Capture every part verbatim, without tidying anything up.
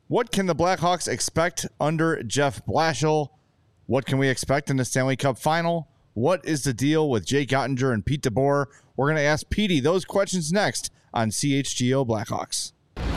What can the Blackhawks expect under Jeff Blashill? What can we expect in the Stanley Cup final? What is the deal with Jake Ottinger and Pete DeBoer? We're going to ask Petey those questions next on C H G O Blackhawks.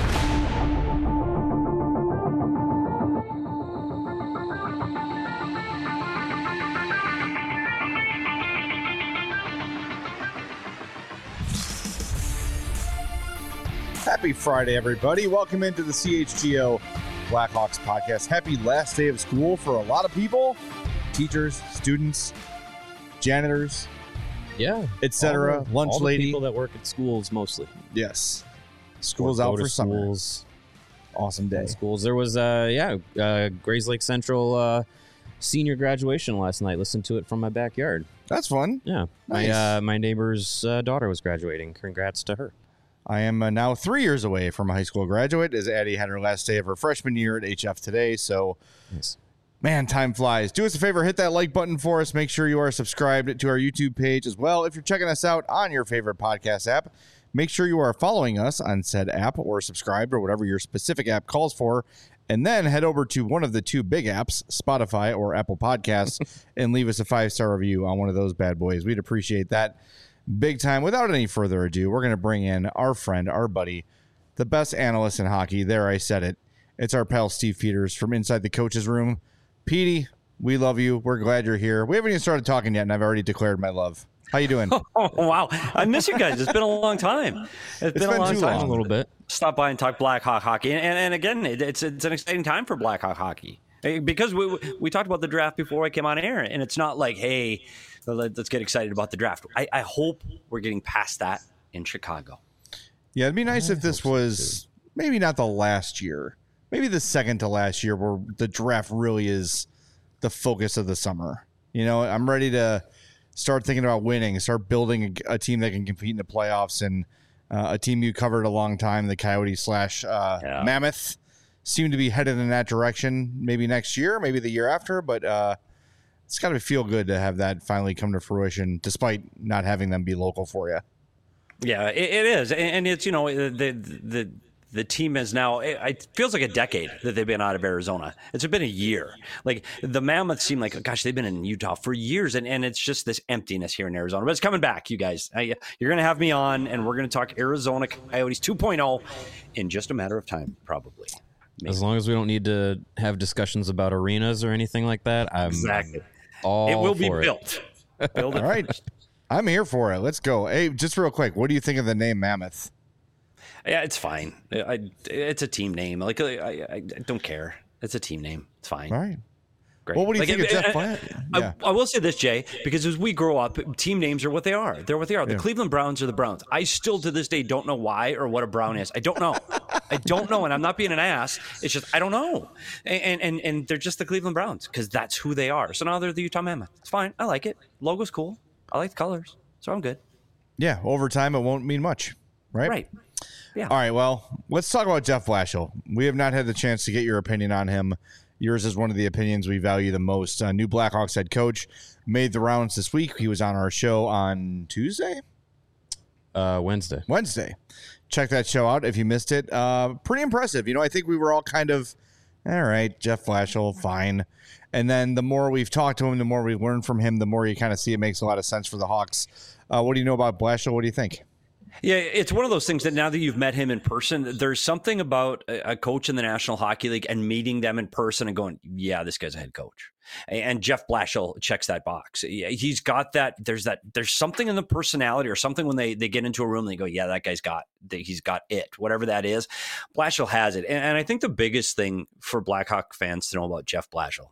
Happy Friday, everybody. Welcome into the C H G O Blackhawks podcast. Happy last day of school for a lot of people. Teachers, students, janitors, yeah, et cetera. Lunch all the lady. People that work at schools mostly. Yes. School's out for summer. Schools. Awesome day. Schools. There was, uh, yeah, uh, Grays Lake Central uh, senior graduation last night. Listened to it from my backyard. That's fun. Yeah. Nice. My, uh, my neighbor's uh, daughter was graduating. Congrats to her. I am uh, now three years away from a high school graduate, as Addie had her last day of her freshman year at H F today. So, nice. Man, time flies. Do us a favor, hit that like button for us. Make sure you are subscribed to our YouTube page as well. If you're checking us out on your favorite podcast app, make sure you are following us on said app or subscribed or whatever your specific app calls for. And then head over to one of the two big apps, Spotify or Apple Podcasts, and leave us a five-star review on one of those bad boys. We'd appreciate that big time. Without any further ado, we're going to bring in our friend, our buddy, the best analyst in hockey. There, I said it. It's our pal Steve Peters from inside the coach's room. Petey, we love you. We're glad you're here. We haven't even started talking yet, and I've already declared my love. How you doing? Oh, wow. I miss you guys. It's been a long time. It's, it's been, been a long too time. long. A little bit. Stop by and talk Blackhawk hockey. And, and, and again, it, it's it's an exciting time for Blackhawk hockey. Because we we talked about the draft before I came on air, and it's not like, hey, let's get excited about the draft. I, I hope we're getting past that in Chicago. Yeah, it'd be nice I if this was maybe not the last year, maybe the second to last year where the draft really is the focus of the summer. You know, I'm ready to start thinking about winning, start building a, a team that can compete in the playoffs, and uh, a team you covered a long time, the Coyotes slash uh, yeah. Mammoth, seem to be headed in that direction. Maybe next year, maybe the year after, but uh, it's got to feel good to have that finally come to fruition, despite not having them be local for you. Yeah, it, it is, and it's, you know, the the the team is now. It feels like a decade that they've been out of Arizona. It's been a year. Like the Mammoths seem like, gosh, they've been in Utah for years, and, and it's just this emptiness here in Arizona. But it's coming back, you guys. I, you're going to have me on, and we're going to talk Arizona Coyotes two point oh in just a matter of time, probably. Maybe. As long as we don't need to have discussions about arenas or anything like that, I'm exactly. all it will be for built. It. Build it All right. first. I'm here for it. Let's go. Hey, just real quick, what do you think of the name Mammoth? Yeah, it's fine. I, it's a team name. Like I, I, I don't care. It's a team name. It's fine. All right. Great. Well, what do you like, think I, of Jeff I, Blatt? I, Yeah. I will say this, Jay, because as we grow up, team names are what they are. They're what they are. The Yeah. Cleveland Browns are the Browns. I still, to this day, don't know why or what a Brown is. I don't know. I don't know, and I'm not being an ass. It's just I don't know. And and and they're just the Cleveland Browns because that's who they are. So now they're the Utah Mammoth. It's fine. I like it. Logo's cool. I like the colors, so I'm good. Yeah, over time, it won't mean much, right? Right. Yeah. All right, well, let's talk about Jeff Blashill. We have not had the chance to get your opinion on him. Yours is one of the opinions we value the most. Uh, new Blackhawks head coach made the rounds this week. He was on our show on Tuesday? Uh, Wednesday. Wednesday. Check that show out if you missed it. Uh, pretty impressive. You know, I think we were all kind of, all right, Jeff Blashill, fine. And then the more we've talked to him, the more we learn from him, the more you kind of see it makes a lot of sense for the Hawks. Uh, what do you know about Blashill? What do you think? Yeah, it's one of those things that now that you've met him in person, there's something about a coach in the National Hockey League and meeting them in person and going, yeah, this guy's a head coach. And Jeff Blashill checks that box. He's got that. There's that. There's something in the personality or something when they, they get into a room and they go, yeah, that guy's got, he's got it, whatever that is. Blashill has it. And, and I think the biggest thing for Blackhawk fans to know about Jeff Blashill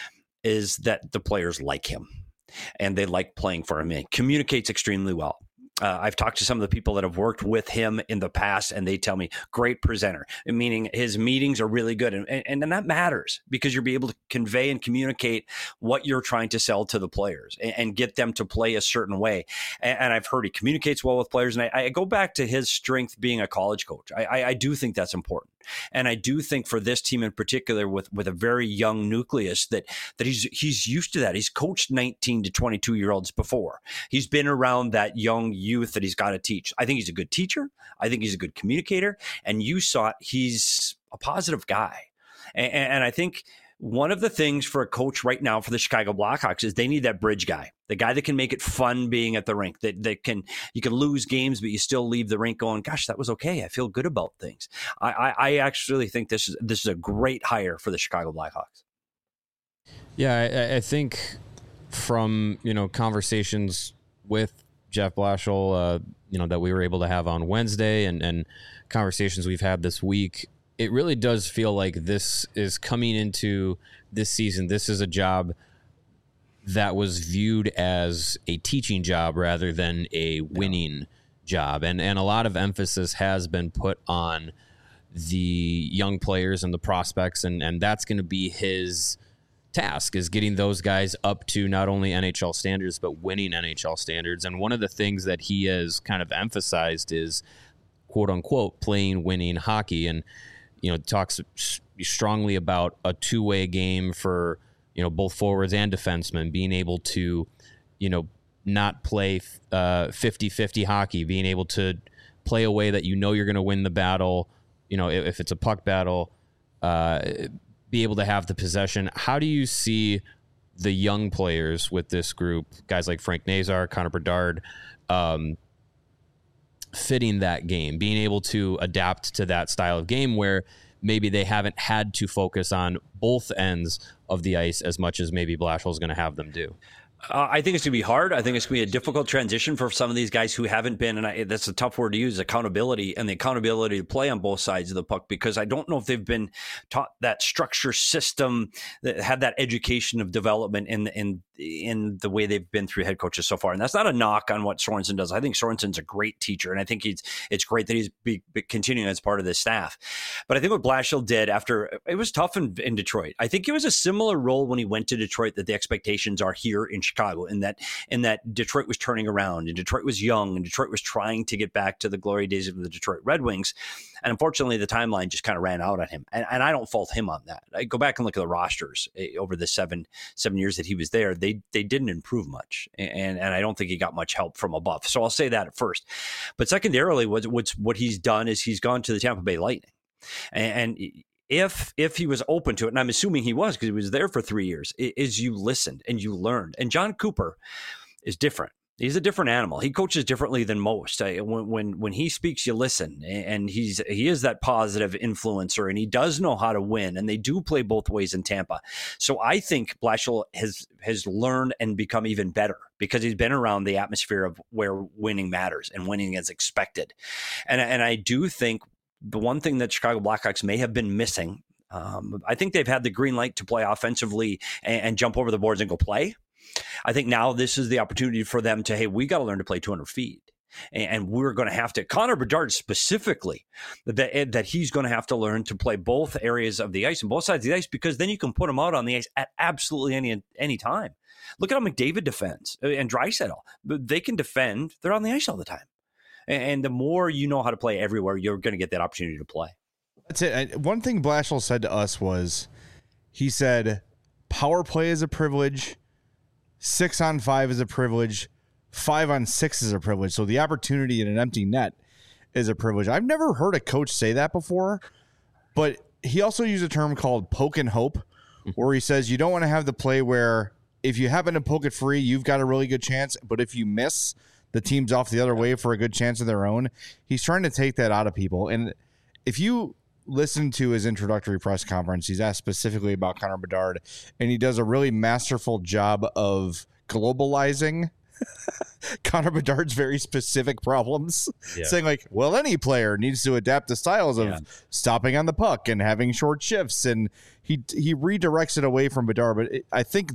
is that the players like him and they like playing for him. He communicates extremely well. Uh, I've talked to some of the people that have worked with him in the past, and they tell me, great presenter, meaning his meetings are really good. And, and, and that matters because you'll be able to convey and communicate what you're trying to sell to the players and, and get them to play a certain way. And, and I've heard he communicates well with players. And I, I go back to his strength being a college coach. I, I, I do think that's important. And I do think for this team in particular, with, with a very young nucleus, that that he's he's used to that. He's coached nineteen to twenty-two year olds before. He's been around that young youth that he's got to teach. I think he's a good teacher. I think he's a good communicator. And you saw it. He's a positive guy. And, and I think one of the things for a coach right now for the Chicago Blackhawks is they need that bridge guy, the guy that can make it fun being at the rink, that, that can, you can lose games, but you still leave the rink going, gosh, that was okay. I feel good about things. I, I, I actually think this is, this is a great hire for the Chicago Blackhawks. Yeah, I, I think from, you know, conversations with Jeff Blashill, uh, you know, that we were able to have on Wednesday and, and conversations we've had this week, it really does feel like this is coming into this season. This is a job that was viewed as a teaching job rather than a winning yeah. job. And, and a lot of emphasis has been put on the young players and the prospects. And, and that's going to be his task, is getting those guys up to not only N H L standards, but winning N H L standards. And one of the things that he has kind of emphasized is, quote unquote, playing winning hockey. And, you know, talks strongly about a two-way game for, you know, both forwards and defensemen, being able to, you know, not play uh, fifty-fifty hockey, being able to play a way that you know you're going to win the battle, you know, if, if it's a puck battle, uh, be able to have the possession. How do you see the young players with this group, guys like Frank Nazar, Connor Bedard, um, fitting that game, being able to adapt to that style of game where maybe they haven't had to focus on both ends of the ice as much as maybe Blashill is going to have them do? Uh, I think it's going to be hard. I think it's going to be a difficult transition for some of these guys who haven't been, and I, that's a tough word to use, accountability, and the accountability to play on both sides of the puck, because I don't know if they've been taught that structure system, that had that education of development in, in, in the way they've been through head coaches so far. And that's not a knock on what Sorensen does. I think Sorensen's a great teacher, and I think he's it's great that he's be, be continuing as part of this staff. But I think what Blashill did after, it was tough in, in Detroit. I think it was a similar role when he went to Detroit that the expectations are here in Chicago, in that in that Detroit was turning around, and Detroit was young, and Detroit was trying to get back to the glory days of the Detroit Red Wings. And unfortunately, the timeline just kind of ran out on him. And, and I don't fault him on that. I go back and look at the rosters over the seven seven years that he was there. They they didn't improve much, and and I don't think he got much help from above. So I'll say that at first. But secondarily, what what's what he's done is he's gone to the Tampa Bay Lightning, and, and If if he was open to it, and I'm assuming he was because he was there for three years, is you listened and you learned. And John Cooper is different. He's a different animal. He coaches differently than most. When when when he speaks, you listen, and he's he is that positive influencer, and he does know how to win. And they do play both ways in Tampa. So I think Blashill has has learned and become even better because he's been around the atmosphere of where winning matters and winning is expected. And and I do think the one thing that Chicago Blackhawks may have been missing, um, I think they've had the green light to play offensively and, and jump over the boards and go play. I think now this is the opportunity for them to, hey, we got to learn to play two hundred feet. And, and we're going to have to, Connor Bedard specifically, that, that he's going to have to learn to play both areas of the ice and both sides of the ice, because then you can put him out on the ice at absolutely any any time. Look at how McDavid defends and Draisaitl. They can defend. They're on the ice all the time. And the more you know how to play everywhere, you're going to get that opportunity to play. That's it. One thing Blashill said to us was, he said, power play is a privilege, six on five is a privilege, five on six is a privilege. So the opportunity in an empty net is a privilege. I've never heard a coach say that before, but he also used a term called poke and hope, where he says you don't want to have the play where if you happen to poke it free, you've got a really good chance, but if you miss, the team's off the other way for a good chance of their own. He's trying to take that out of people. And if you listen to his introductory press conference, he's asked specifically about Connor Bedard, and he does a really masterful job of globalizing Connor Bedard's very specific problems, yeah. saying like, well, any player needs to adapt to styles of yeah. stopping on the puck and having short shifts. And he, he redirects it away from Bedard. But it, I think,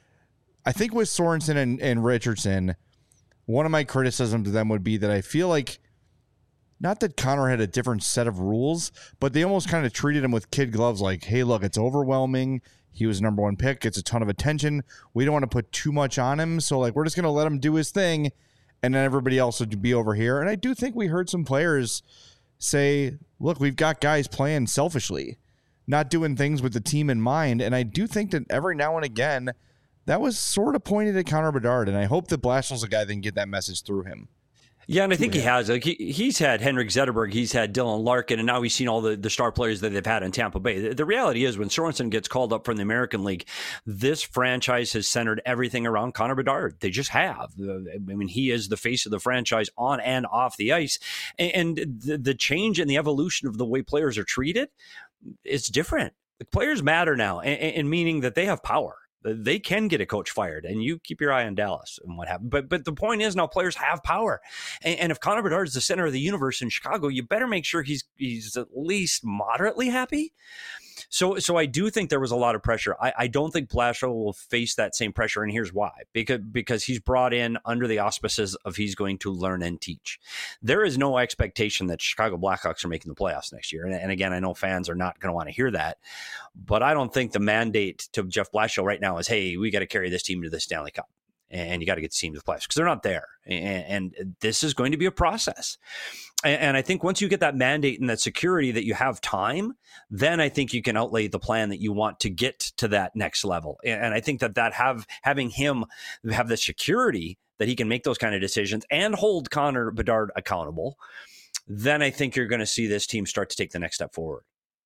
I think with Sorensen and, and Richardson, one of my criticisms of them would be that I feel like, not that Connor had a different set of rules, but they almost kind of treated him with kid gloves like, hey, look, it's overwhelming. He was number one pick. It's a ton of attention. We don't want to put too much on him. So, like, we're just going to let him do his thing, and then everybody else would be over here. And I do think we heard some players say, look, we've got guys playing selfishly, not doing things with the team in mind. And I do think that every now and again, that was sort of pointed at Connor Bedard, and I hope that Blashill's a guy that can get that message through him. Yeah, and I think he has. Like he, he's had Henrik Zetterberg, he's had Dylan Larkin, and now he's seen all the, the star players that they've had in Tampa Bay. The, the reality is when Sorensen gets called up from the American League, this franchise has centered everything around Connor Bedard. They just have. I mean, he is the face of the franchise on and off the ice. And, and the, the change and the evolution of the way players are treated, it's different. The players matter now, and, and meaning that they have power. They can get a coach fired, and you keep your eye on Dallas and what happened. But but the point is now players have power, and, and if Connor Bedard is the center of the universe in Chicago, you better make sure he's he's at least moderately happy. So so I do think there was a lot of pressure. I, I don't think Blashill will face that same pressure, and here's why. Because because he's brought in under the auspices of he's going to learn and teach. There is no expectation that Chicago Blackhawks are making the playoffs next year. And, and again, I know fans are not going to want to hear that, but I don't think the mandate to Jeff Blashill right now is, hey, we got to carry this team to the Stanley Cup. And you got to get the team to the playoffs because they're not there. And, and this is going to be a process. And, and I think once you get that mandate and that security that you have time, then I think you can outlay the plan that you want to get to that next level. And, and I think that that have having him have the security that he can make those kind of decisions and hold Connor Bedard accountable, then I think you're going to see this team start to take the next step forward.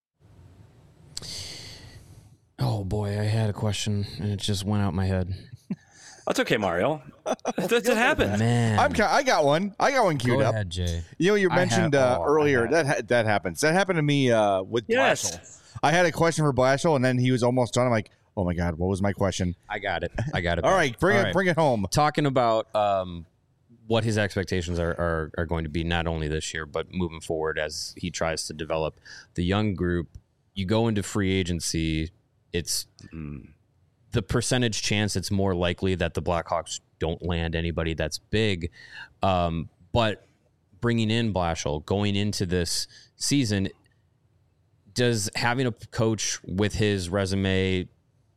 Oh boy, I had a question and it just went out my head. That's okay, Mario. That, that happened. Man, I'm. I got one. I got one queued Go up. ahead, Jay. You know, you mentioned have, uh, oh, earlier that ha- that happens. That happened to me uh, with Yes. Blashill. I had a question for Blashill, and then he was almost done. I'm like, oh my god, what was my question? I got it. I got it. All right, bring All it. right. Bring it home. Talking about um, what his expectations are, are are going to be not only this year but moving forward as he tries to develop the young group. You go into free agency, it's mm, the percentage chance it's more likely that the Blackhawks don't land anybody that's big. Um, but bringing in Blashill, going into this season, does having a coach with his resume,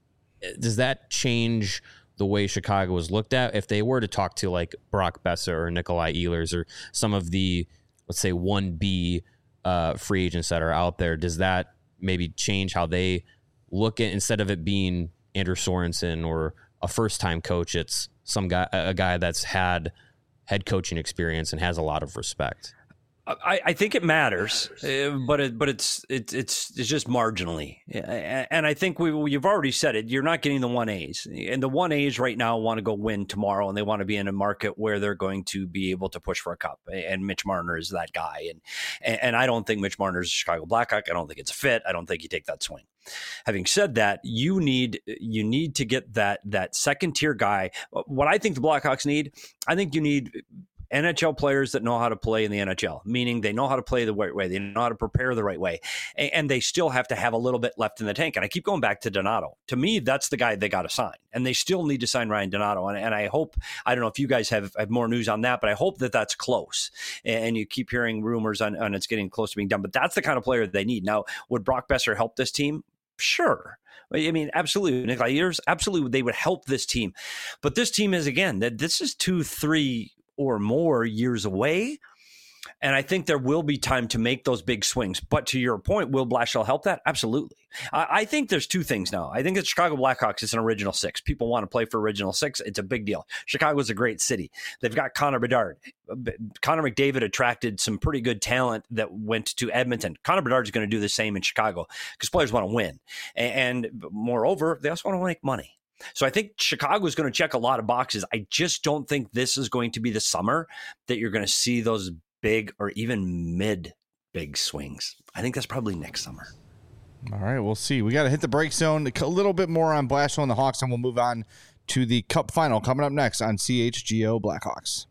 does that change the way Chicago was looked at? If they were to talk to like Brock Boeser or Nikolai Ehlers or some of the, let's say, one B uh, free agents that are out there, does that maybe change how they look at, instead of it being Andrew Sorensen or a first-time coach, it's some guy, a guy that's had head coaching experience and has a lot of respect? I, I think it matters, uh, but it, but it's it's it's it's just marginally, and I think we you've already said it. You're not getting the one A's, and the one A's right now want to go win tomorrow, and they want to be in a market where they're going to be able to push for a cup. And Mitch Marner is that guy, and and, and I don't think Mitch Marner is a Chicago Blackhawk. I don't think it's a fit. I don't think you take that swing. Having said that, you need you need to get that that second tier guy. What I think the Blackhawks need, I think you need N H L players that know how to play in the N H L, meaning they know how to play the right way. They know how to prepare the right way. And, and they still have to have a little bit left in the tank. And I keep going back to Donato. To me, that's the guy they got to sign. And they still need to sign Ryan Donato. And, and I hope, I don't know if you guys have, have more news on that, but I hope that that's close. And you keep hearing rumors on, on it's getting close to being done. But that's the kind of player they need. Now, would Brock Boeser help this team? Sure. I mean, absolutely. Nikolai Ehlers, absolutely. They would help this team. But this team is, again, that this is two, three, or more years away. And I think there will be time to make those big swings. But to your point, will Blashill help that? Absolutely. I, I think there's two things now. I think the Chicago Blackhawks is an original six. People want to play for original six. It's a big deal. Chicago's a great city. They've got Connor Bedard. Connor McDavid attracted some pretty good talent that went to Edmonton. Connor Bedard's going to do the same in Chicago because players want to win. And, and moreover, they also want to make money. So I think Chicago is going to check a lot of boxes. I just don't think this is going to be the summer that you're going to see those big or even mid big swings. I think that's probably next summer. All right, we'll see. We got to hit the break zone. A little bit more on Blashill and the Hawks, and we'll move on to the Cup final coming up next on C H G O Blackhawks.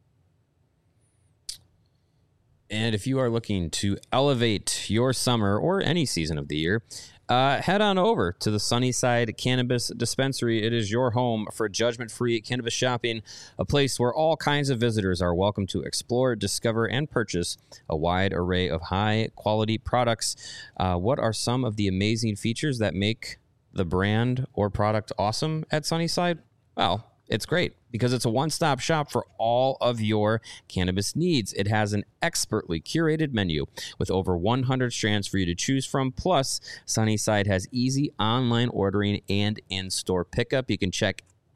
And if you are looking to elevate your summer or any season of the year, Uh, head on over to the Sunnyside Cannabis Dispensary. It is your home for judgment-free cannabis shopping, a place where all kinds of visitors are welcome to explore, discover, and purchase a wide array of high-quality products. Uh, what are some of the amazing features that make the brand or product awesome at Sunnyside? Well, it's great because it's a one-stop shop for all of your cannabis needs. It has an expertly curated menu with over one hundred strands for you to choose from. Plus, Sunnyside has easy online ordering and in-store pickup. You can check out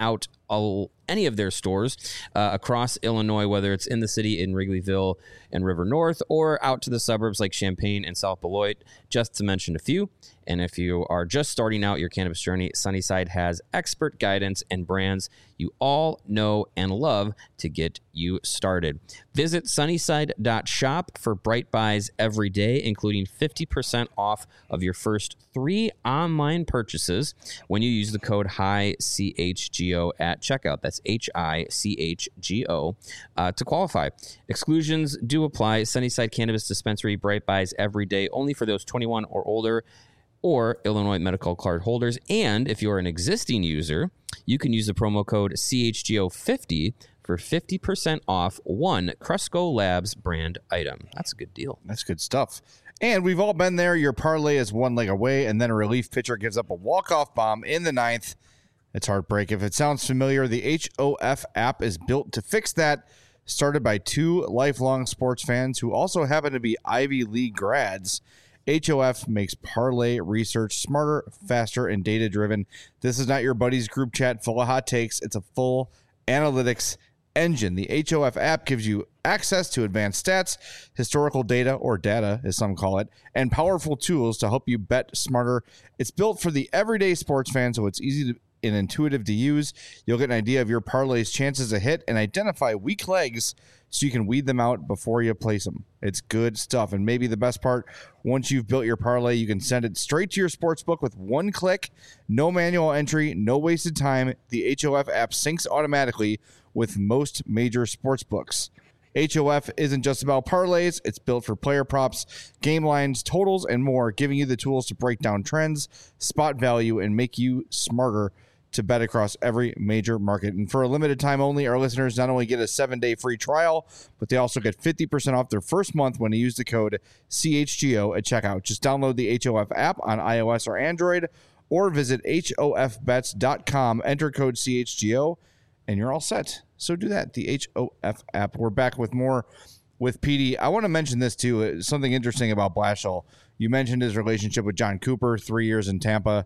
all, any of their stores uh, across Illinois, whether it's in the city in Wrigleyville and River North or out to the suburbs like Champaign and South Beloit, just to mention a few. And if you are just starting out your cannabis journey, Sunnyside has expert guidance and brands you all know and love to get you started. Visit sunnyside dot shop for bright buys every day, including fifty percent off of your first three online purchases when you use the code H I C H G O at checkout. That's H I C H G O uh, to qualify. Exclusions do apply. Sunnyside Cannabis Dispensary, bright buys every day, only for those twenty-one or older or Illinois medical card holders. And if you're an existing user, you can use the promo code C H G O fifty for fifty percent off one Cresco Labs brand item. That's a good deal. That's good stuff. And we've all been there. Your parlay is one leg away, and then a relief pitcher gives up a walk-off bomb in the ninth. It's heartbreak. If it sounds familiar, the H O F app is built to fix that. Started by two lifelong sports fans who also happen to be Ivy League grads. H O F makes parlay research smarter, faster, and data-driven. This is not your buddy's group chat full of hot takes. It's a full analytics engine. The H O F app gives you access to advanced stats, historical data, or data, as some call it, and powerful tools to help you bet smarter. It's built for the everyday sports fan, so it's easy to and intuitive to use. You'll get an idea of your parlay's chances to hit and identify weak legs so you can weed them out before you place them. It's good stuff. And maybe the best part, once you've built your parlay, you can send it straight to your sportsbook with one click, no manual entry, no wasted time. The H O F app syncs automatically with most major sportsbooks. H O F isn't just about parlays. It's built for player props, game lines, totals, and more, giving you the tools to break down trends, spot value, and make you smarter to bet across every major market. And for a limited time only, our listeners not only get a seven-day free trial, but they also get fifty percent off their first month when they use the code C H G O at checkout. Just download the H O F app on iOS or Android, or visit H O F bets dot com, enter code C H G O, and you're all set. So do that, the H O F app. We're back with more with P D. I want to mention this, too, something interesting about Blashill. You mentioned his relationship with John Cooper, three years in Tampa.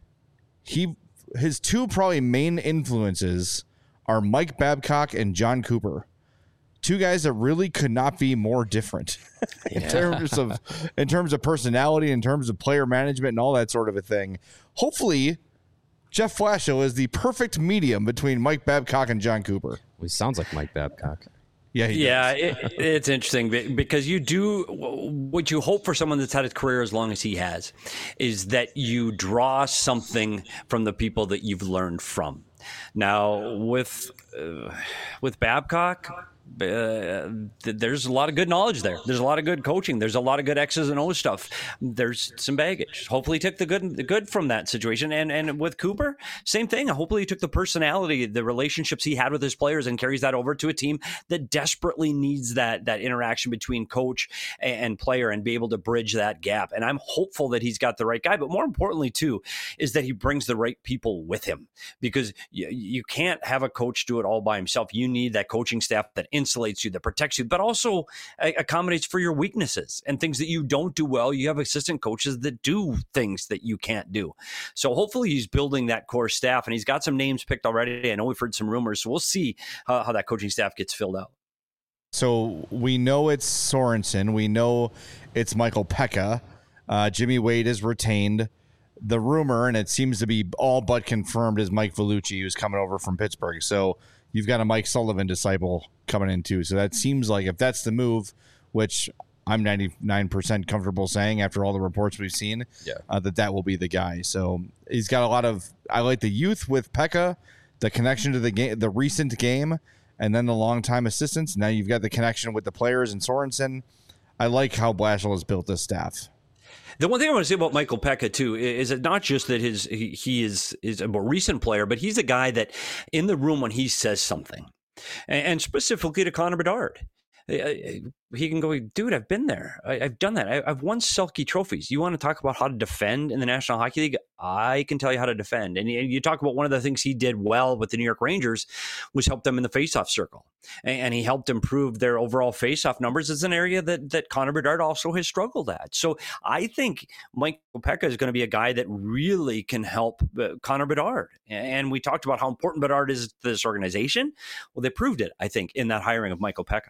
He... His two probably main influences are Mike Babcock and John Cooper. Two guys that really could not be more different in yeah. terms of in terms of personality, in terms of player management, and all that sort of a thing. Hopefully, Jeff Blashill is the perfect medium between Mike Babcock and John Cooper. Well, he sounds like Mike Babcock. Yeah, yeah, it, it's interesting because you do what you hope for someone that's had a career as long as he has is that you draw something from the people that you've learned from. Now, with uh, with Babcock, uh, there's a lot of good knowledge there. There's a lot of good coaching. There's a lot of good X's and O's stuff. There's some baggage. Hopefully, he took the good the good from that situation. And and with Cooper, same thing. Hopefully, he took the personality, the relationships he had with his players, and carries that over to a team that desperately needs that that interaction between coach and player, and be able to bridge that gap. And I'm hopeful that he's got the right guy. But more importantly, too, is that he brings the right people with him, because you, you can't have a coach do it all by himself. You need that coaching staff that insulates you, that protects you, but also accommodates for your weaknesses and things that you don't do well. You have assistant coaches that do things that you can't do. So hopefully he's building that core staff, and he's got some names picked already. I know we've heard some rumors, so we'll see how, how that coaching staff gets filled out. So we know it's Sorensen. We know it's Michael Peca. Uh, Jimmy Wade is retained. The rumor, and it seems to be all but confirmed, is Mike Vellucci, who's coming over from Pittsburgh. So you've got a Mike Sullivan disciple coming in too. So that seems like, if that's the move, which I'm ninety-nine percent comfortable saying after all the reports we've seen, yeah. uh, that that will be the guy. So he's got a lot of, I like the youth with Peca, the connection to the game, the recent game, and then the longtime assistants. Now you've got the connection with the players and Sorensen. I like how Blashill has built this staff. The one thing I want to say about Michael Peca, too, is that not just that his he, he is, is a more recent player, but he's a guy that in the room when he says something, and, and specifically to Connor Bedard, He can go, dude, I've been there. I, I've done that. I, I've won Selke trophies. You want to talk about how to defend in the National Hockey League? I can tell you how to defend. And you, you talk about one of the things he did well with the New York Rangers was help them in the faceoff circle. And, and he helped improve their overall faceoff numbers. It's an area that, that Connor Bedard also has struggled at. So I think Mike Opeka is going to be a guy that really can help uh, Connor Bedard. And we talked about how important Bedard is to this organization. Well, they proved it, I think, in that hiring of Mike Opeka.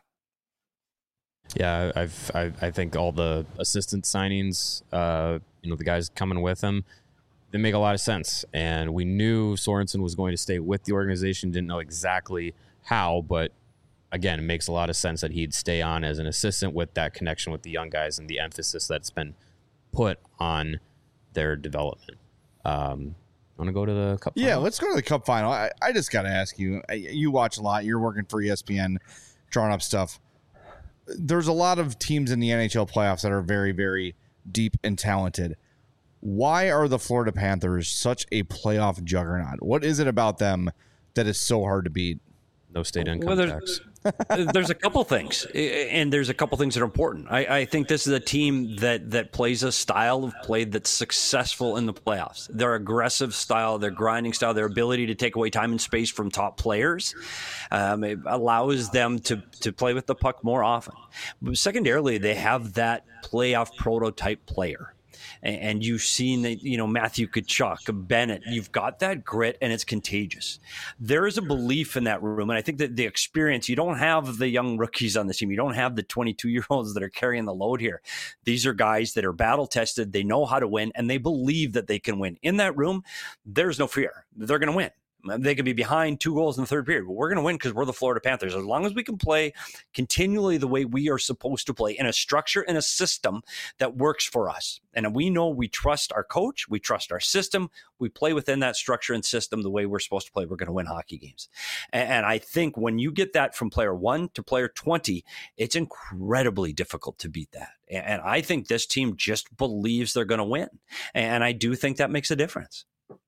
Yeah, I've, I, I think all the assistant signings, uh, you know, the guys coming with him, they make a lot of sense. And we knew Sorensen was going to stay with the organization. Didn't know exactly how, but again, it makes a lot of sense that he'd stay on as an assistant with that connection with the young guys and the emphasis that's been put on their development. Um, want to go to the Cup final? Yeah, let's go to the Cup final. I, I just got to ask you, you watch a lot. You're working for E S P N, drawing up stuff. There's a lot of teams in the N H L playoffs that are very, very deep and talented. Why are the Florida Panthers such a playoff juggernaut? What is it about them that is so hard to beat? No state income well, there's, tax. There's a couple things, and there's a couple things that are important. I, I think this is a team that that plays a style of play that's successful in the playoffs. Their aggressive style, their grinding style, their ability to take away time and space from top players, um, it allows them to to play with the puck more often. But secondarily, they have that playoff prototype player. And you've seen that, you know, Matthew Tkachuk, Bennett, you've got that grit and it's contagious. There is a belief in that room. And I think that the experience, you don't have the young rookies on the team. You don't have the twenty-two year olds that are carrying the load here. These are guys that are battle tested. They know how to win and they believe that they can win. In that room, there's no fear. They're going to win. They could be behind two goals in the third period, but we're going to win because we're the Florida Panthers. As long as we can play continually the way we are supposed to play in a structure and a system that works for us. And we know we trust our coach, we trust our system, we play within that structure and system the way we're supposed to play. We're going to win hockey games. And I think when you get that from player one to player twenty, it's incredibly difficult to beat that. And I think this team just believes they're going to win. And I do think that makes a difference.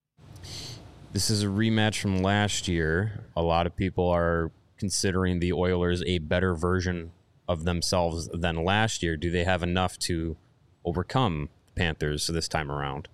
This is a rematch from last year. A lot of people are considering the Oilers a better version of themselves than last year. Do they have enough to overcome the Panthers this time around?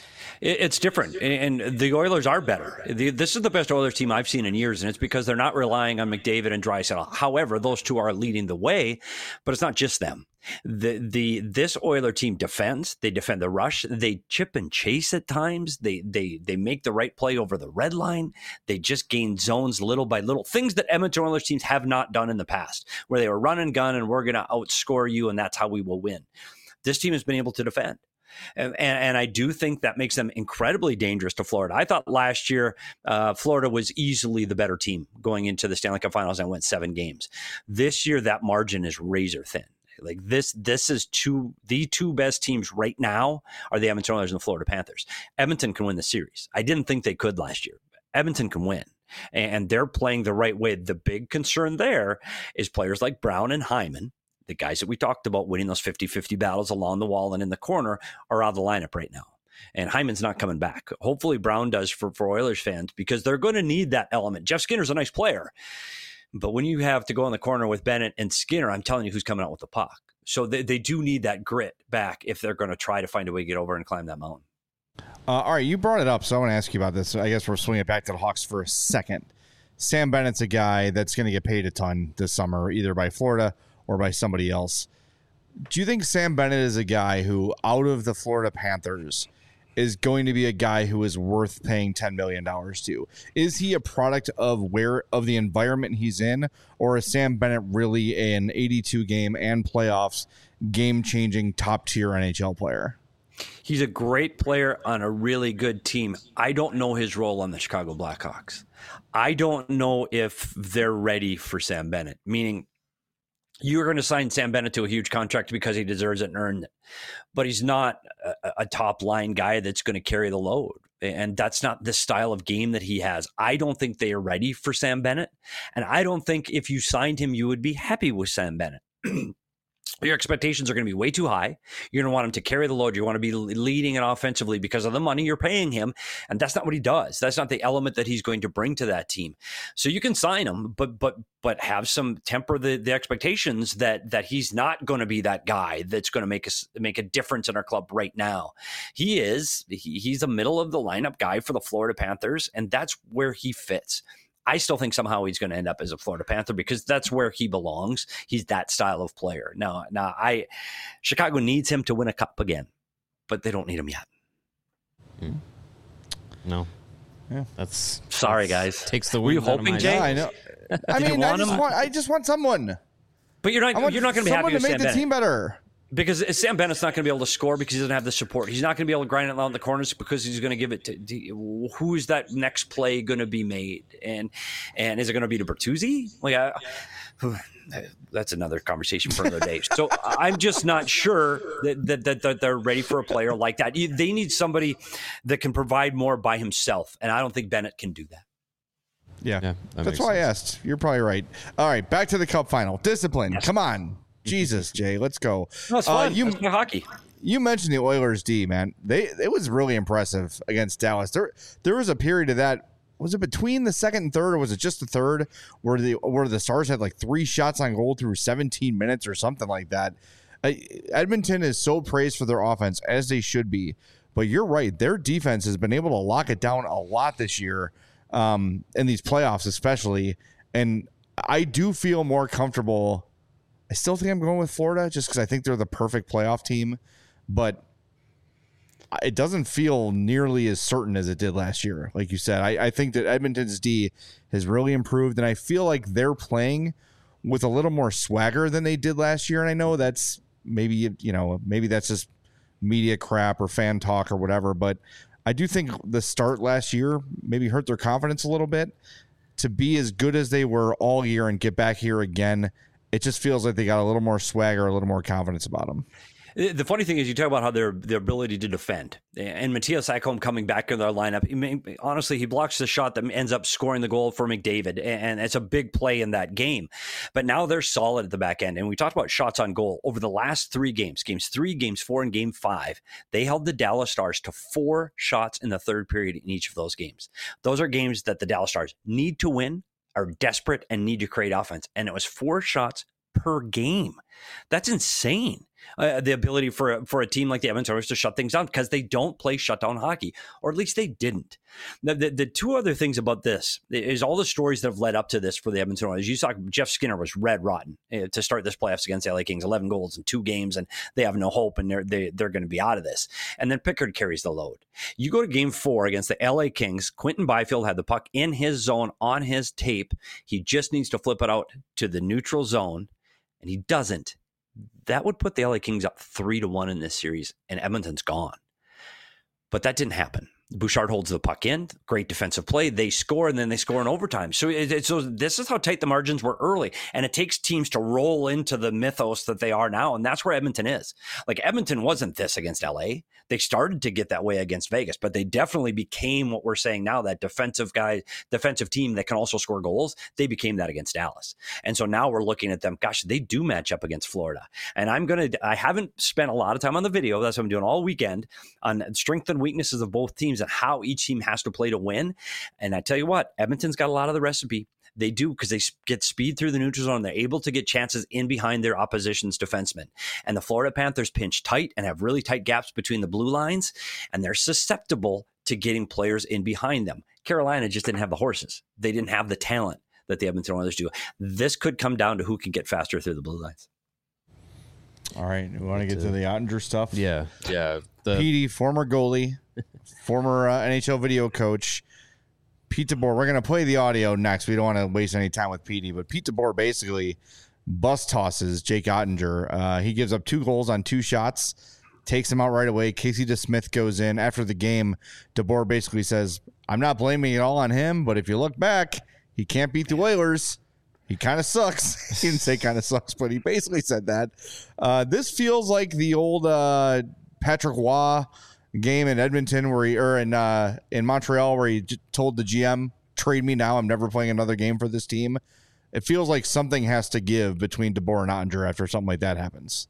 It's different, and the Oilers are better. This is the best Oilers team I've seen in years, and it's because they're not relying on McDavid and Draisaitl. However, those two are leading the way, but it's not just them. The the this Oiler team defends. They defend the rush. They chip and chase at times. They they they make the right play over the red line. They just gain zones little by little. Things that Edmonton Oilers teams have not done in the past, where they were run and gun and we're going to outscore you and that's how we will win. This team has been able to defend. And, and I do think that makes them incredibly dangerous to Florida. I thought last year uh, Florida was easily the better team going into the Stanley Cup Finals and went seven games. This year, that margin is razor thin. Like this, this is two the two best teams right now are the Edmonton Oilers and the Florida Panthers. Edmonton can win the series. I didn't think they could last year. Edmonton can win, and they're playing the right way. The big concern there is players like Brown and Hyman. The guys that we talked about winning those fifty-fifty battles along the wall and in the corner are out of the lineup right now. And Hyman's not coming back. Hopefully Brown does for, for Oilers fans because they're going to need that element. Jeff Skinner's a nice player. But when you have to go in the corner with Bennett and Skinner, I'm telling you who's coming out with the puck. So they, they do need that grit back if they're going to try to find a way to get over and climb that mountain. Uh, all right, you brought it up, so I want to ask you about this. I guess we're swinging it back to the Hawks for a second. Sam Bennett's a guy that's going to get paid a ton this summer, either by Florida or by somebody else. Do you think Sam Bennett is a guy who, out of the Florida Panthers, is going to be a guy who is worth paying ten million dollars to? Is he a product of where of the environment he's in, or is Sam Bennett really an eighty-two game and playoffs game-changing top-tier N H L player? He's a great player on a really good team. I don't know his role on the Chicago Blackhawks. I don't know if they're ready for Sam Bennett, meaning you're going to sign Sam Bennett to a huge contract because he deserves it and earned it. But he's not a, a top line guy that's going to carry the load. And that's not the style of game that he has. I don't think they are ready for Sam Bennett. And I don't think if you signed him, you would be happy with Sam Bennett. your expectations are going to be way too high. You're going to want him to carry the load. You want to be leading it offensively because of the money you're paying him. And that's not what he does. That's not the element that he's going to bring to that team. So you can sign him, but but but have some temper the, the expectations that that he's not going to be that guy that's going to make us make a difference in our club right now. He is. He, he's a middle of the lineup guy for the Florida Panthers, and that's where he fits. I still think somehow he's going to end up as a Florida Panther because that's where he belongs. He's that style of player. Now, now I Chicago needs him to win a cup again, but they don't need him yet. Mm. No. Yeah, that's sorry, that's, guys. Takes the Were you wind out of hoping, my Jay? Yeah, I know. I mean, I just, want, I just want someone. But you're not. I want you're not going to be happy someone with to make Sam the Bennett. team better. Because Sam Bennett's not going to be able to score because he doesn't have the support. He's not going to be able to grind it out in the corners because he's going to give it to, to who is that next play going to be made, and and is it going to be to Bertuzzi? Like, I, that's another conversation for another day. So I'm just not sure that, that that that they're ready for a player like that. They need somebody that can provide more by himself, and I don't think Bennett can do that. Yeah, yeah that that's why sense. I asked. You're probably right. All right, back to the Cup final. Discipline. Yes. Come on. Jesus, Jay, let's go. No, it's fun. Uh, you, That's hockey. You mentioned the Oilers D, man. They it was really impressive against Dallas. There there was a period of that. Was it between the second and third, or was it just the third, where the where the Stars had like three shots on goal through seventeen minutes or something like that? Uh, Edmonton is so praised for their offense, as they should be. But you're right, their defense has been able to lock it down a lot this year, um, in these playoffs especially. And I do feel more comfortable. I still think I'm going with Florida just because I think they're the perfect playoff team, but it doesn't feel nearly as certain as it did last year. Like you said, I, I think that Edmonton's D has really improved, and I feel like they're playing with a little more swagger than they did last year. And I know that's maybe, you know, maybe that's just media crap or fan talk or whatever, but I do think the start last year maybe hurt their confidence a little bit. To be as good as they were all year and get back here again, it just feels like they got a little more swagger, a little more confidence about them. The funny thing is, you talk about how their their ability to defend, and Matthias Ekholm coming back in their lineup. He may, honestly, he blocks the shot that ends up scoring the goal for McDavid, and it's a big play in that game. But now they're solid at the back end, and we talked about shots on goal over the last three games, games three, games four, and game five. They held the Dallas Stars to four shots in the third period in each of those games. Those are games that the Dallas Stars need to win, are desperate, and need to create offense, and it was four shots per game. That's insane. Uh, the ability for a, for a team like the Edmonton Oilers to shut things down because they don't play shutdown hockey, or at least they didn't. The, the, the two other things about this is all the stories that have led up to this for the Edmonton Oilers. You saw Jeff Skinner was red rotten uh, to start this playoffs against the L A Kings, eleven goals in two games, and they have no hope, and they're they, they're going to be out of this. And then Pickard carries the load. You go to game four against the L A Kings. Quentin Byfield had the puck in his zone on his tape. He just needs to flip it out to the neutral zone, and he doesn't. That would put the L A Kings up three to one in this series, and Edmonton's gone. But that didn't happen. Bouchard holds the puck in, great defensive play. They score, and then they score in overtime. So, it, it, so this is how tight the margins were early, and it takes teams to roll into the mythos that they are now, and that's where Edmonton is. Like, Edmonton wasn't this against L A. They started to get that way against Vegas, but they definitely became what we're saying now, that defensive guy, defensive team that can also score goals. They became that against Dallas. And so now we're looking at them, gosh, they do match up against Florida. And I'm going to, I haven't spent a lot of time on the video. That's what I'm doing all weekend on strengths and weaknesses of both teams and how each team has to play to win. And I tell you what, Edmonton's got a lot of the recipe. They do, because they get speed through the neutral zone. They're able to get chances in behind their opposition's defensemen. And the Florida Panthers pinch tight and have really tight gaps between the blue lines, and they're susceptible to getting players in behind them. Carolina just didn't have the horses. They didn't have the talent that the Edmonton Oilers do. This could come down to who can get faster through the blue lines. All right, we want to get to the Ottinger stuff. Yeah, yeah. The P D, former goalie, former uh, N H L video coach, Pete DeBoer. We're going to play the audio next. We don't want to waste any time with P D, but Pete DeBoer basically bus tosses Jake Ottinger. Uh, he gives up two goals on two shots, takes him out right away. Casey DeSmith goes in. After the game, DeBoer basically says, I'm not blaming it all on him, but if you look back, he can't beat the Oilers. He kind of sucks. He didn't say kind of sucks, but he basically said that. Uh, this feels like the old uh, Patrick Waugh game in Edmonton where he, or in uh, in Montreal where he j- told the G M, trade me now. I'm never playing another game for this team. it feels like something has to give between DeBoer and Ottinger after something like that happens.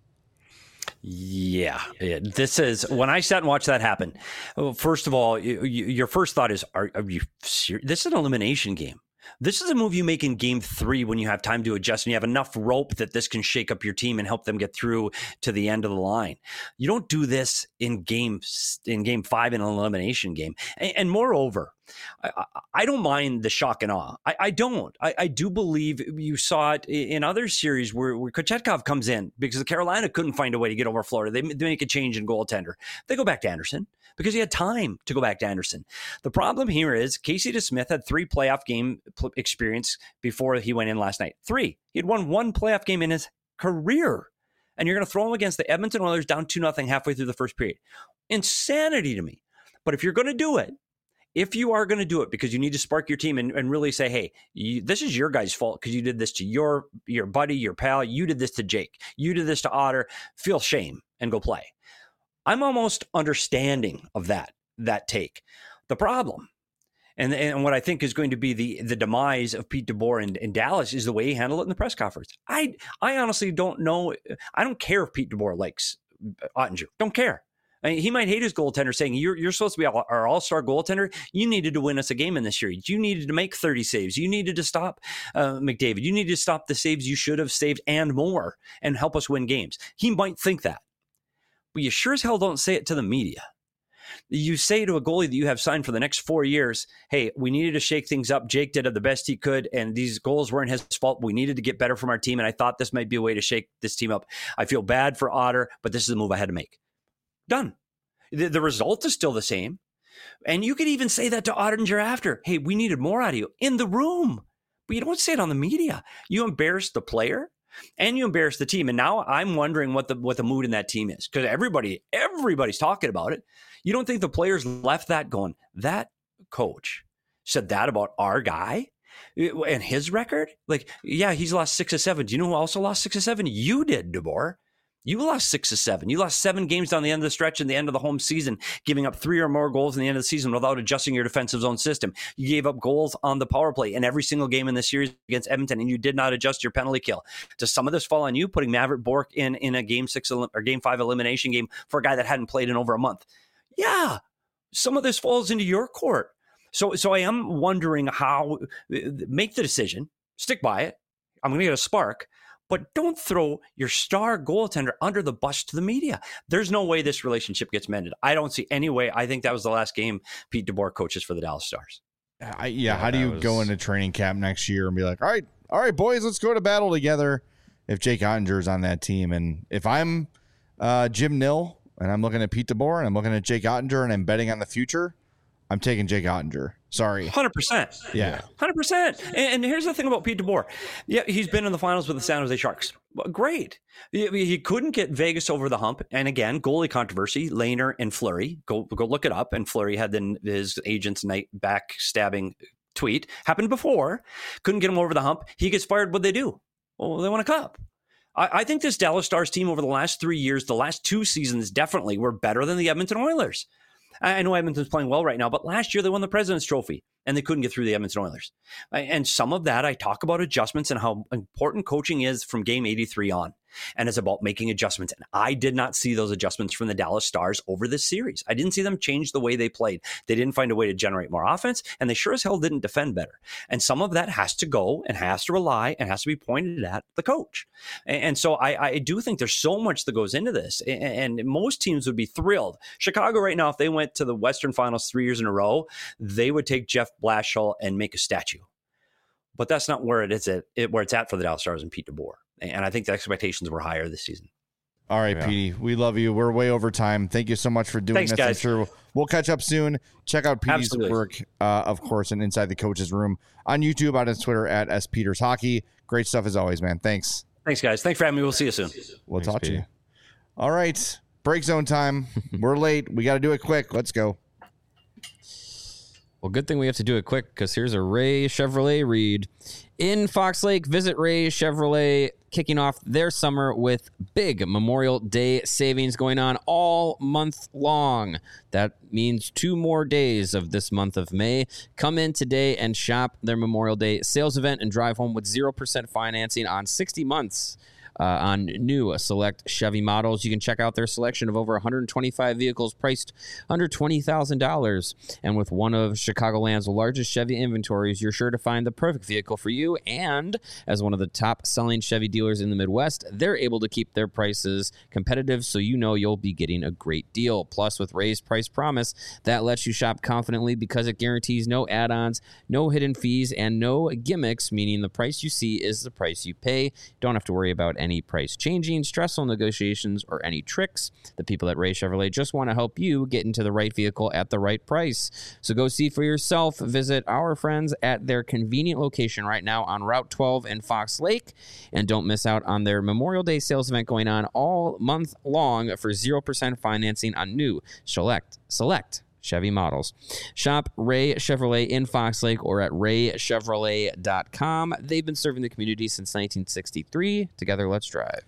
Yeah, yeah, this is when I sat and watched that happen. Well, first of all, you, you, your first thought is, are, are you serious? This is an elimination game. This is a move you make in game three when you have time to adjust and you have enough rope that this can shake up your team and help them get through to the end of the line. You don't do this in game in game five in an elimination game. And, and moreover, I, I don't mind the shock and awe. I, I don't. I, I do believe you saw it in other series where, where Kochetkov comes in because Carolina couldn't find a way to get over Florida. They, they make a change in goaltender. They go back to Anderson because he had time to go back to Anderson. The problem here is Casey DeSmith had three playoff game experience before he went in last night. Three. He had won one playoff game in his career. And you're going to throw him against the Edmonton Oilers down two nothing halfway through the first period. Insanity to me. But if you're going to do it, If you are going to do it because you need to spark your team and, and really say, hey, you, this is your guy's fault because you did this to your your buddy, your pal. You did this to Jake. You did this to Otter. Feel shame and go play. I'm almost understanding of that, that take. The problem, and, and what I think is going to be the, the demise of Pete DeBoer in, in Dallas is the way he handled it in the press conference. I, I honestly don't know. I don't care if Pete DeBoer likes Ottinger. Don't care. I mean, he might hate his goaltender saying, you're, you're supposed to be our all-star goaltender. You needed to win us a game in this series. You needed to make thirty saves. You needed to stop uh, McDavid. You needed to stop the saves you should have saved and more and help us win games. He might think that. But you sure as hell don't say it to the media. You say to a goalie that you have signed for the next four years, hey, we needed to shake things up. Jake did the best he could, and these goals weren't his fault. We needed to get better from our team, and I thought this might be a way to shake this team up. I feel bad for Otter, but this is the move I had to make. Done. The, the result is still the same. And you could even say that to Ottinger after. Hey, we needed more out of you in the room. But you don't say it on the media. You embarrass the player and you embarrass the team. And now I'm wondering what the what the mood in that team is. Because everybody, everybody's talking about it. You don't think the players left that going, that coach said that about our guy and his record? Like, yeah, he's lost six or seven. Do you know who also lost six or seven? You did, DeBoer. You lost six or seven. You lost seven games down the end of the stretch and the end of the home season, giving up three or more goals in the end of the season without adjusting your defensive zone system. You gave up goals on the power play in every single game in the series against Edmonton, and you did not adjust your penalty kill. Does some of this fall on you, putting Maverick Bourque in, in a game six or game five elimination game for a guy that hadn't played in over a month? Yeah, some of this falls into your court. So, so I am wondering how, make the decision, stick by it. I'm going to get a spark. But don't throw your star goaltender under the bus to the media. There's no way this relationship gets mended. I don't see any way. I think that was the last game Pete DeBoer coaches for the Dallas Stars. I, yeah, yeah, how do you was... go into training camp next year and be like, all right, all right, boys, let's go to battle together if Jake Ottinger is on that team? And if I'm uh, Jim Nill and I'm looking at Pete DeBoer and I'm looking at Jake Ottinger and I'm betting on the future, I'm taking Jake Ottinger. Sorry. one hundred percent. Yeah. one hundred percent. And, and here's the thing about Pete DeBoer. Yeah, he's been in the finals with the San Jose Sharks. Great. He, he couldn't get Vegas over the hump. And again, goalie controversy, Lehner and Fleury. Go go look it up. And Fleury had then his agent's night backstabbing tweet. Happened before. Couldn't get him over the hump. He gets fired. What'd they do? Well, they won a cup. I, I think this Dallas Stars team over the last three years, the last two seasons definitely were better than the Edmonton Oilers. I know Edmonton's playing well right now, but last year they won the President's Trophy and they couldn't get through the Edmonton Oilers. And some of that, I talk about adjustments and how important coaching is from game eighty-three on. And it's about making adjustments. And I did not see those adjustments from the Dallas Stars over this series. I didn't see them change the way they played. They didn't find a way to generate more offense, and they sure as hell didn't defend better. And some of that has to go and has to rely and has to be pointed at the coach. And so I, I do think there's so much that goes into this. And most teams would be thrilled. Chicago right now, if they went to the Western Finals three years in a row, they would take Jeff Blashill and make a statue. But that's not where it is at, it, where it's at for the Dallas Stars and Pete DeBoer. And I think the expectations were higher this season. All right, yeah. Petey, we love you. We're way over time. Thank you so much for doing Thanks, this. Guys. I'm sure we'll catch up soon. Check out Petey's Absolutely. work, uh, of course, and Inside the Coach's Room on YouTube, on his Twitter at S Peters Hockey. Great stuff as always, man. Thanks. Thanks, guys. Thanks for having me. We'll see you soon. We'll Thanks, talk Petey. to you. All right, break zone time. We're late. We got to do it quick. Let's go. Well, good thing we have to do it quick because here's a Ray Chevrolet read. In Fox Lake, visit Ray Chevrolet, kicking off their summer with big Memorial Day savings going on all month long. That means two more days of this month of May. Come in today and shop their Memorial Day sales event and drive home with zero percent financing on sixty months. Uh, on new select Chevy models. You can check out their selection of over one hundred twenty-five vehicles priced under twenty thousand dollars. And with one of Chicagoland's largest Chevy inventories, you're sure to find the perfect vehicle for you. And as one of the top-selling Chevy dealers in the Midwest, they're able to keep their prices competitive, so you know you'll be getting a great deal. Plus, with Ray's Price Promise, that lets you shop confidently because it guarantees no add-ons, no hidden fees, and no gimmicks, meaning the price you see is the price you pay. Don't have to worry about any Any price changing, stressful negotiations, or any tricks. The people at Ray Chevrolet just want to help you get into the right vehicle at the right price. So go see for yourself. Visit our friends at their convenient location right now on Route twelve in Fox Lake. And don't miss out on their Memorial Day sales event going on all month long for zero percent financing on new select select Chevy models. Shop Ray Chevrolet in Fox Lake or at ray chevrolet dot com. They've been serving the community since nineteen sixty-three. Together, let's drive.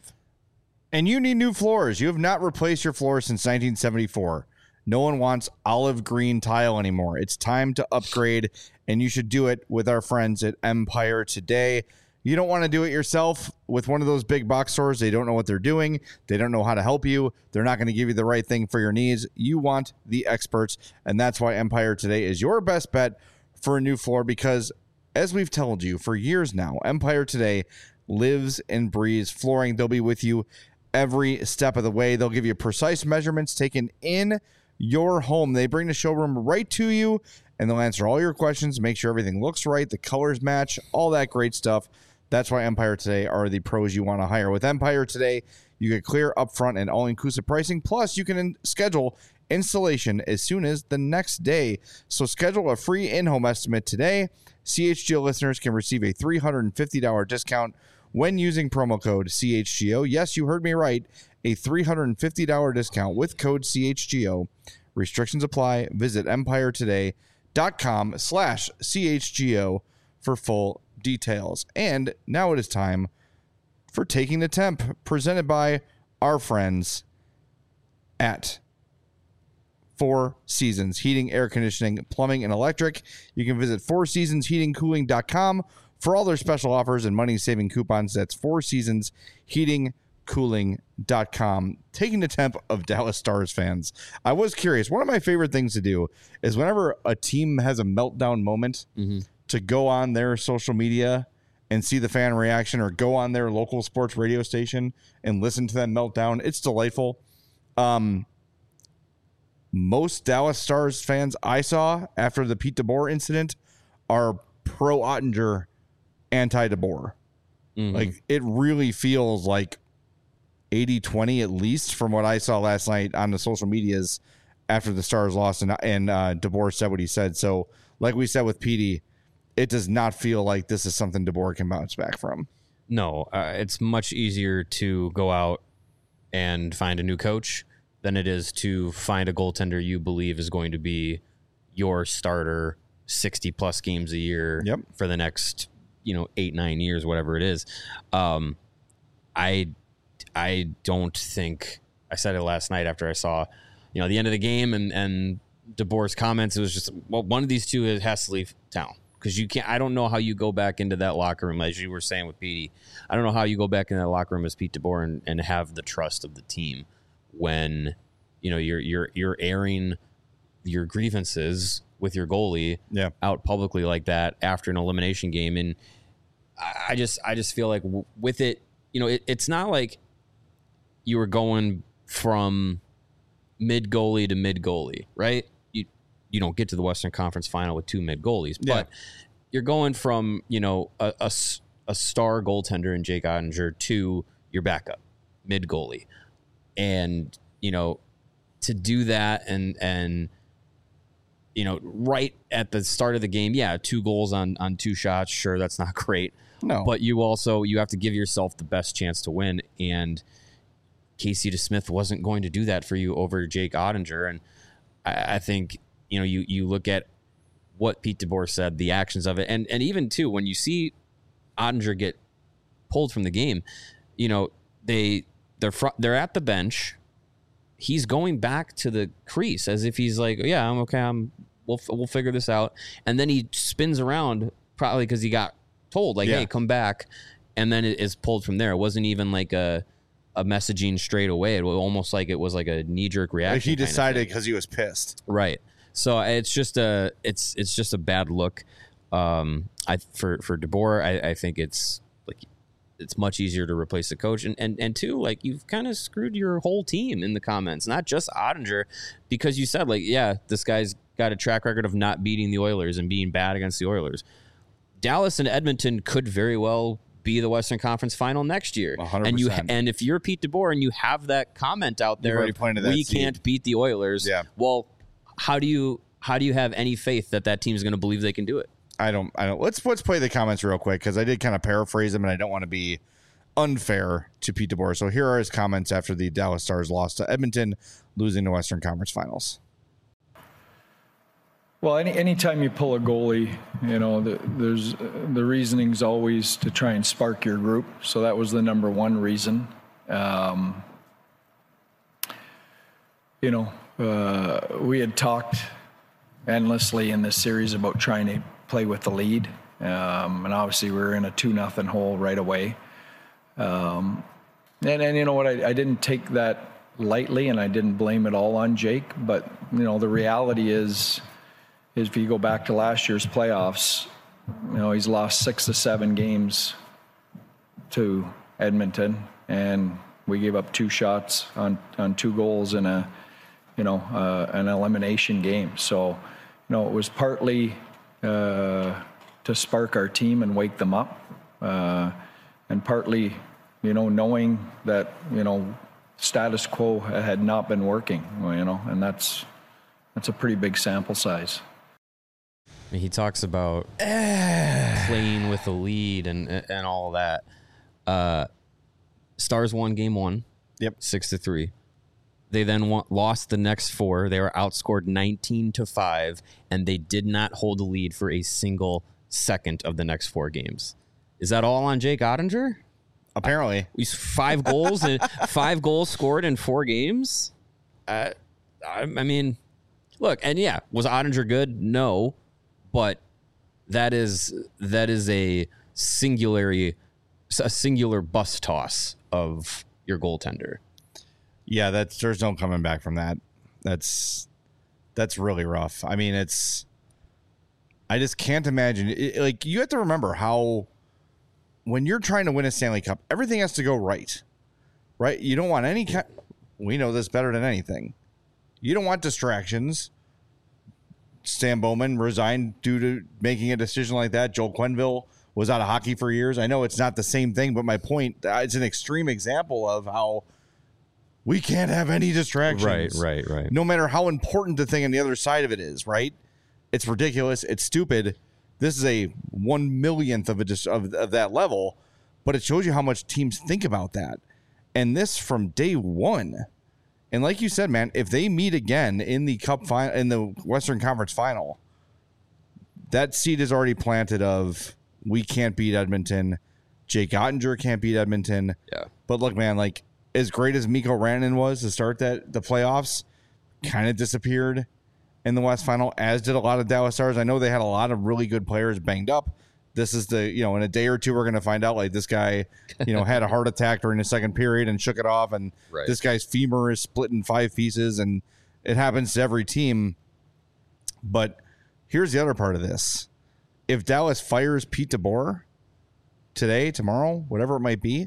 And you need new floors. You have not replaced your floors since nineteen seventy-four. No one wants olive green tile anymore. It's time to upgrade, and you should do it with our friends at Empire today. You don't want to do it yourself with one of those big box stores. They don't know what they're doing. They don't know how to help you. They're not going to give you the right thing for your needs. You want the experts, and that's why Empire Today is your best bet for a new floor because, as we've told you for years now, Empire Today lives and breathes flooring. They'll be with you every step of the way. They'll give you precise measurements taken in your home. They bring the showroom right to you, and they'll answer all your questions, make sure everything looks right, the colors match, all that great stuff. That's why Empire Today are the pros you want to hire. With Empire Today, you get clear upfront and all-inclusive pricing. Plus, you can in- schedule installation as soon as the next day. So schedule a free in-home estimate today. C H G O listeners can receive a three hundred fifty dollars discount when using promo code C H G O. Yes, you heard me right. A three hundred fifty dollars discount with code C H G O. Restrictions apply. Visit empiretoday.com slash CHGO for full details. And now it is time for Taking the Temp, presented by our friends at Four Seasons Heating, Air Conditioning, Plumbing, and Electric. You can visit four seasons heating cooling dot com for all their special offers and money-saving coupons. That's four seasons heating cooling dot com. Taking the temp of Dallas Stars fans. I was curious. One of my favorite things to do is whenever a team has a meltdown moment, mm-hmm. to go on their social media and see the fan reaction, or go on their local sports radio station and listen to them meltdown. It's delightful. Um, most Dallas Stars fans I saw after the Pete DeBoer incident are pro Ottinger, anti DeBoer. Mm-hmm. Like, it really feels like eighty twenty, at least from what I saw last night on the social medias after the Stars lost and, and uh, DeBoer said what he said. So like we said with Petey, it does not feel like this is something DeBoer can bounce back from. No, uh, it's much easier to go out and find a new coach than it is to find a goaltender you believe is going to be your starter sixty plus games a year yep. for the next, you know, eight, nine years, whatever it is. Um, I, I don't think I said it last night after I saw, you know, the end of the game and, and DeBoer's comments. It was just, well, one of these two has to leave town. Because you can't, I don't know how you go back into that locker room, as you were saying with Petey. I don't know how you go back in that locker room as Pete DeBoer and, and have the trust of the team when, you know, you're you're you're airing your grievances with your goalie yeah. out publicly like that after an elimination game. And I just I just feel like w- with it, you know, it, it's not like you were going from mid goalie to mid goalie, right? You don't get to the Western Conference Final with two mid goalies, but yeah. you're going from, you know, a, a, a star goaltender in Jake Ottinger to your backup mid goalie. And, you know, to do that and, and, you know, right at the start of the game, yeah, two goals on, on two shots. Sure. That's not great. No, but you also, you have to give yourself the best chance to win. And Casey DeSmith wasn't going to do that for you over Jake Ottinger. And I, I think, you know, you, you look at what Pete DeBoer said, the actions of it, and and even too when you see Oettinger get pulled from the game, you know they they're fr- they're at the bench. He's going back to the crease as if he's like, yeah, I'm okay. I'm we'll we'll figure this out, and then he spins around probably because he got told like, yeah. hey, come back, and then it is pulled from there. It wasn't even like a a messaging straight away. It was almost like it was like a knee jerk reaction. Like he decided because he was pissed, right? So it's just a it's it's just a bad look. Um, I for for DeBoer, I, I think it's like it's much easier to replace the coach, and and and two, like you've kind of screwed your whole team in the comments, not just Oettinger, because you said like, yeah, this guy's got a track record of not beating the Oilers and being bad against the Oilers. Dallas and Edmonton could very well be the Western Conference Final next year, one hundred percent. and you and if you're Pete DeBoer and you have that comment out there, already pointed that we seed. Can't beat the Oilers. Yeah. Well, how do you how do you have any faith that that team's going to believe they can do it? I don't. I don't. Let's let's play the comments real quick because I did kind of paraphrase them, and I don't want to be unfair to Pete DeBoer. So here are his comments after the Dallas Stars lost to Edmonton, losing the Western Conference Finals. Well, any anytime you pull a goalie, you know, the, there's uh, the reasoning's always to try and spark your group. So that was the number one reason. Um, you know, uh, we had talked endlessly in this series about trying to play with the lead, um, and obviously we were in a two nothing hole right away. Um, and and you know what, I, I didn't take that lightly, and I didn't blame it all on Jake. But you know, the reality is. is if you go back to last year's playoffs, you know, he's lost six to seven games to Edmonton, and we gave up two shots on, on two goals in a, you know, uh, an elimination game. So, you know, it was partly uh, to spark our team and wake them up, uh, and partly, you know, knowing that, you know, status quo had not been working, you know, and that's that's a pretty big sample size. He talks about playing with the lead and and all of that. Uh, Stars won game one. Yep, six to three. They then won, lost the next four. They were outscored nineteen to five, and they did not hold the lead for a single second of the next four games. Is that all on Jake Oettinger? Apparently, he's five goals and five goals scored in four games. Uh, I, I mean, look, and yeah, was Oettinger good? No. But that is that is a singular a singular bus toss of your goaltender. Yeah, that's there's no coming back from that. That's that's really rough. I mean, it's I just can't imagine. It, like you have to remember how when you're trying to win a Stanley Cup, everything has to go right. Right? You don't want any kind. We know this better than anything. You don't want distractions. Stan Bowman resigned due to making a decision like that. Joel Quenneville was out of hockey for years. I know it's not the same thing, but my point, it's an extreme example of how we can't have any distractions. Right, right, right. No matter how important the thing on the other side of it is, right? It's ridiculous. It's stupid. This is a one millionth of, a dis- of, of that level, but it shows you how much teams think about that. And this from day one. And like you said, man, if they meet again in the cup final, in the Western Conference Final, that seed is already planted of we can't beat Edmonton. Jake Oettinger can't beat Edmonton. Yeah. But look, man, like as great as Mikko Rantanen was to start that the playoffs, kind of disappeared in the West Final, as did a lot of Dallas Stars. I know they had a lot of really good players banged up. This is the, you know, in a day or two, we're going to find out like this guy, you know, had a heart attack during the second period and shook it off. And right. This guy's femur is split in five pieces, and it happens to every team. But here's the other part of this. If Dallas fires Pete DeBoer today, tomorrow, whatever it might be,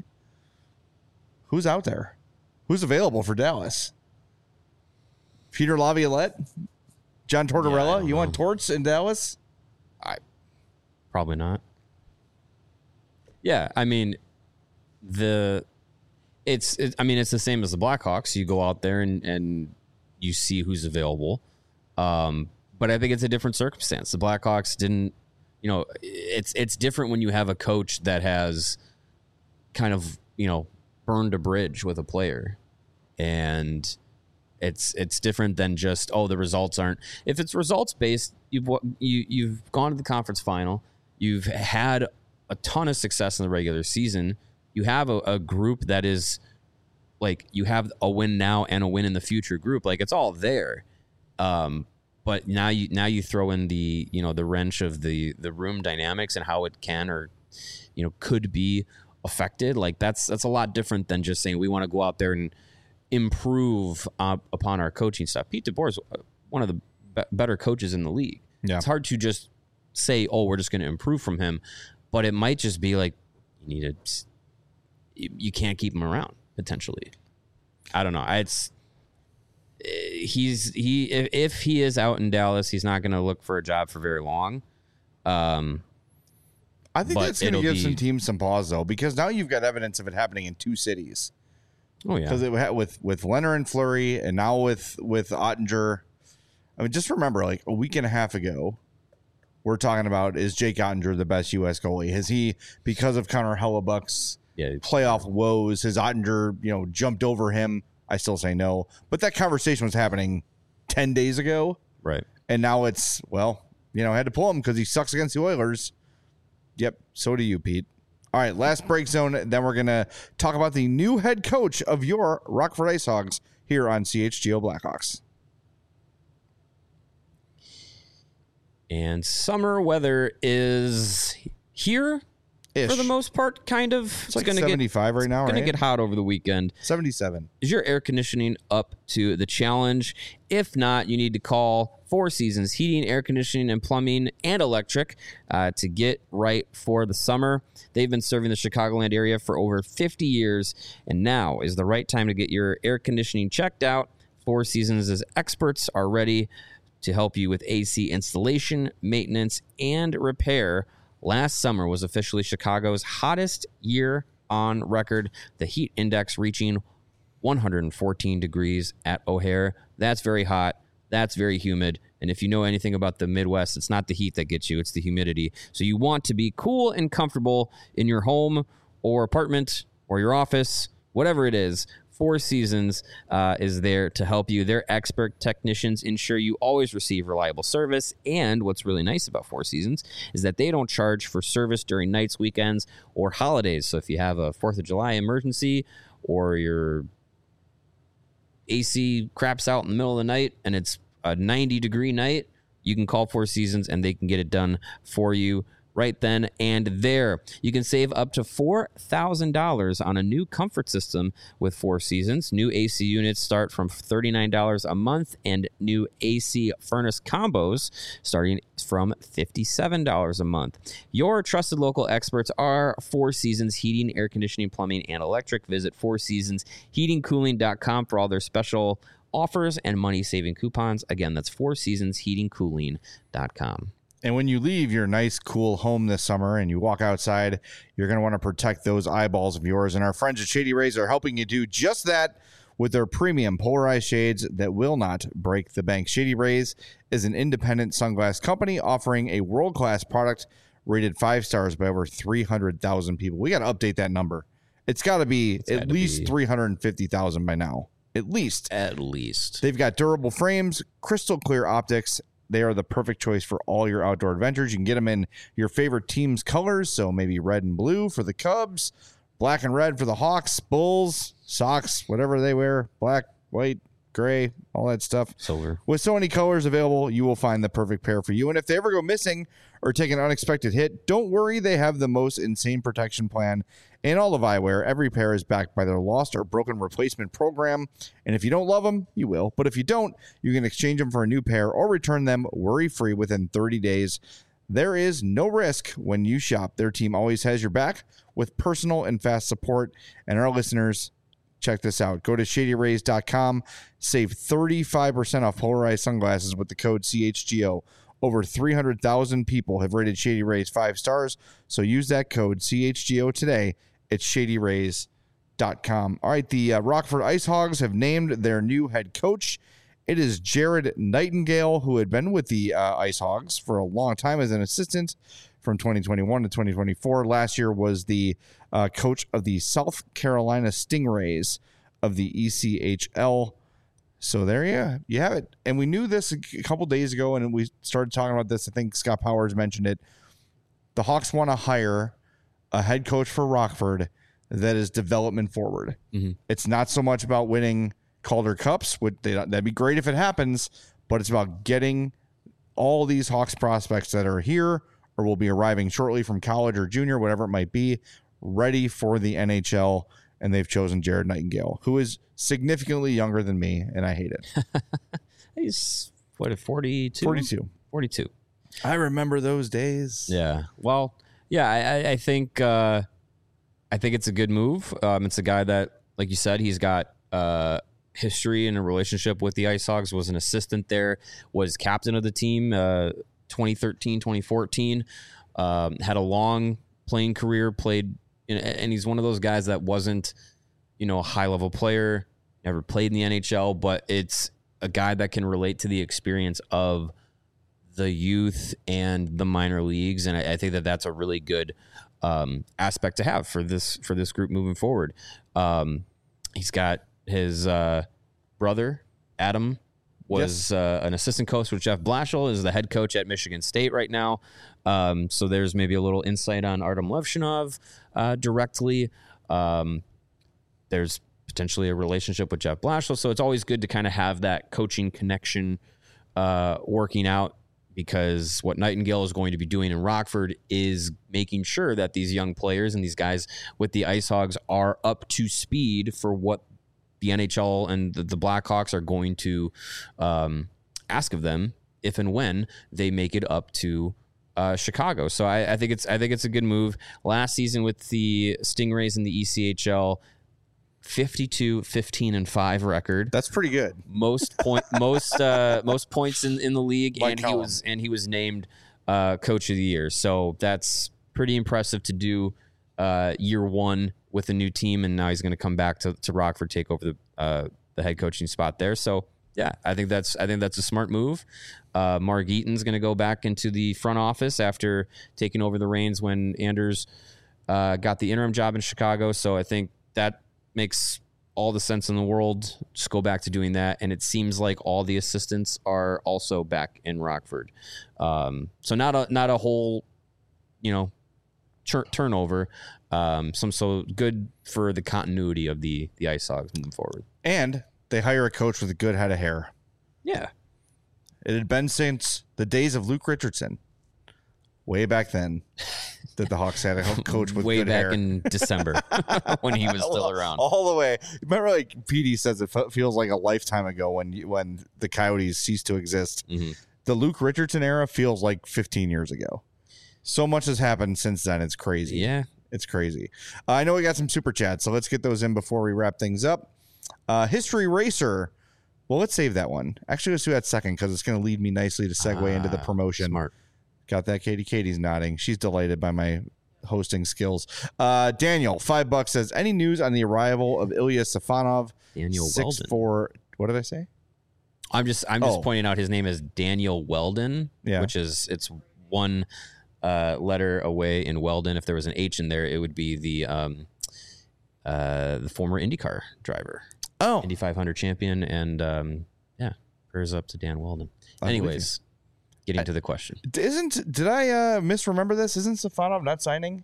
who's out there? Who's available for Dallas? Peter Laviolette? John Tortorella? Yeah, you know. want Torts in Dallas? I Probably not. Yeah, I mean, the it's it, I mean it's the same as the Blackhawks. You go out there and and you see who's available, um, but I think it's a different circumstance. The Blackhawks didn't, you know, it's it's different when you have a coach that has kind of, you know, burned a bridge with a player, and It's it's different than just, oh, the results aren't. If it's results based, you've you you've gone to the conference final, you've had a ton of success in the regular season. You have a, a group that is like, you have a win now and a win in the future group. Like, it's all there. Um, but now you now you throw in the, you know, the wrench of the the room dynamics and how it can or, you know, could be affected. Like, that's that's a lot different than just saying we want to go out there and improve uh, upon our coaching stuff. Pete DeBoer is one of the be- better coaches in the league. Yeah. It's hard to just say, oh, we're just going to improve from him, but it might just be like, you need to, you can't keep him around potentially. I don't know. It's he's he if, if he is out in Dallas, he's not going to look for a job for very long. Um, I think that's going to give be, some teams some pause though, because now you've got evidence of it happening in two cities. Oh yeah, because it had with with Leonard and Fleury, and now with with Ottinger. I mean, just remember, like a week and a half ago, we're talking about, is Jake Ottinger the best U S goalie? Has he, because of Connor Hellebuck's yeah. playoff woes, has Ottinger, you know, jumped over him? I still say no, but that conversation was happening ten days ago, right? And now it's, well, you know, I had to pull him because he sucks against the Oilers. Yep, so do you, Pete. All right, last break zone. Then we're going to talk about the new head coach of your Rockford Ice Hogs here on C H G O Blackhawks. And summer weather is here Ish. For the most part, kind of. It's, it's like gonna seventy-five get, right now, it's right? It's going to get hot over the weekend. seventy-seven. Is your air conditioning up to the challenge? If not, you need to call Four Seasons Heating, Air Conditioning, and Plumbing, and Electric uh, to get right for the summer. They've been serving the Chicagoland area for over fifty years, and now is the right time to get your air conditioning checked out. Four Seasons' experts are ready to help you with A C installation, maintenance, and repair. Last summer was officially Chicago's hottest year on record, the heat index reaching one hundred fourteen degrees at O'Hare. That's very hot. That's very humid. And if you know anything about the Midwest, it's not the heat that gets you, it's the humidity. So you want to be cool and comfortable in your home or apartment or your office, whatever it is. Four Seasons uh, is there to help you. Their expert technicians ensure you always receive reliable service. And what's really nice about Four Seasons is that they don't charge for service during nights, weekends, or holidays. So if you have a fourth of July emergency or your A C craps out in the middle of the night and it's a ninety degree night, you can call Four Seasons and they can get it done for you right then and there. You can save up to four thousand dollars on a new comfort system with Four Seasons. New A C units start from thirty-nine dollars a month, and new A C furnace combos starting from fifty-seven dollars a month. Your trusted local experts are Four Seasons Heating, Air Conditioning, Plumbing, and Electric. Visit four seasons heating cooling dot com for all their special offers and money-saving coupons. Again, that's four seasons heating cooling dot com. And when you leave your nice, cool home this summer and you walk outside, you're going to want to protect those eyeballs of yours. And our friends at Shady Rays are helping you do just that with their premium polarized shades that will not break the bank. Shady Rays is an independent sunglass company offering a world-class product rated five stars by over three hundred thousand people. We got to update that number. It's got to be at least be. three hundred fifty thousand by now. At least. At least. They've got durable frames, crystal clear optics. They are the perfect choice for all your outdoor adventures. You can get them in your favorite team's colors, so maybe red and blue for the Cubs, black and red for the Hawks, Bulls, Sox, whatever they wear, black, white, gray, all that stuff. Silver. With so many colors available, you will find the perfect pair for you. And if they ever go missing or take an unexpected hit, don't worry. They have the most insane protection plan in all of eyewear. Every pair is backed by their lost or broken replacement program. And if you don't love them, you will. But if you don't, you can exchange them for a new pair or return them worry-free within thirty days. There is no risk when you shop. Their team always has your back with personal and fast support. And our listeners, check this out. Go to shady rays dot com. Save thirty-five percent off polarized sunglasses with the code C H G O. Over three hundred thousand people have rated Shady Rays five stars. So use that code C H G O today at shady rays dot com. All right, the uh, Rockford Ice Hogs have named their new head coach. It is Jared Nightingale, who had been with the uh, Ice Hogs for a long time as an assistant from twenty twenty-one to twenty twenty-four. Last year was the uh, coach of the South Carolina Stingrays of the E C H L. So there you, you have it. And we knew this a couple days ago, and we started talking about this. I think Scott Powers mentioned it. The Hawks want to hire a head coach for Rockford that is development forward. Mm-hmm. It's not so much about winning Calder Cups, which they, that'd be great if it happens, but it's about getting all these Hawks prospects that are here or will be arriving shortly from college or junior, whatever it might be, ready for the N H L. And they've chosen Jared Nightingale, who is significantly younger than me, and I hate it. He's, what, forty-two? forty-two. forty-two. I remember those days. Yeah. Well, yeah, I, I think uh, I think it's a good move. Um, it's a guy that, like you said, he's got uh, history and a relationship with the Ice Hogs, was an assistant there, was captain of the team uh, twenty thirteen, twenty fourteen, um, had a long playing career, played, and he's one of those guys that wasn't, you know, a high-level player, never played in the N H L, but it's a guy that can relate to the experience of the youth and the minor leagues, and I, I think that that's a really good um, aspect to have for this for this group moving forward. Um, he's got his uh, brother Adam was Yes. uh, an assistant coach with Jeff Blashill, is the head coach at Michigan State right now. Um, so there's maybe a little insight on Artem Levshinov uh, directly. Um, there's potentially a relationship with Jeff Blashill, so it's always good to kind of have that coaching connection uh, working out, because what Nightingale is going to be doing in Rockford is making sure that these young players and these guys with the Ice Hogs are up to speed for what the N H L and the, the Blackhawks are going to um, ask of them if and when they make it up to uh, Chicago. So I, I think it's I think it's a good move. Last season with the Stingrays in the E C H L, fifty-two, fifteen, and five record. That's pretty good. Most point, most uh, most points in, in the league, Like and he Callum. was and he was named uh, coach of the year. So that's pretty impressive to do uh, year one with a new team, and now he's going to come back to, to Rockford, take over the uh, the head coaching spot there. So yeah, I think that's I think that's a smart move. Uh, Mark Eaton's going to go back into the front office after taking over the reins when Anders uh, got the interim job in Chicago. So I think that makes all the sense in the world. Just go back to doing that. And it seems like all the assistants are also back in Rockford. Um, so not a, not a whole, you know, tur- turnover. Um, some, so good for the continuity of the, the Ice Hogs moving forward. And they hire a coach with a good head of hair. Yeah. It had been since the days of Luke Richardson, way back then, that the Hawks had a coach with way good back hair. in December when he was still around. All the way. Remember, like P D says, it fe- feels like a lifetime ago when you, when the Coyotes ceased to exist. Mm-hmm. The Luke Richardson era feels like fifteen years ago. So much has happened since then. It's crazy. Yeah. It's crazy. Uh, I know we got some super chats, so let's get those in before we wrap things up. Uh, History Racer. Well, let's save that one. Actually, let's do that second because it's going to lead me nicely to segue Ah, into the promotion. Smart. Got that, Katie? Katie's nodding. She's delighted by my hosting skills. Uh, Daniel, five bucks, says, any news on the arrival of Ilya Safonov? Daniel six, Weldon. Four, what did I say? I'm just I'm just Oh. pointing out his name is Daniel Weldon, Yeah. which is it's one uh, letter away in Weldon. If there was an H in there, it would be the um, uh, the former IndyCar driver, Oh, Indy five hundred champion, and um, yeah, prayers up to Dan Weldon. I believe Anyways, getting to the question. isn't did I uh, misremember this? Isn't Safonov not signing?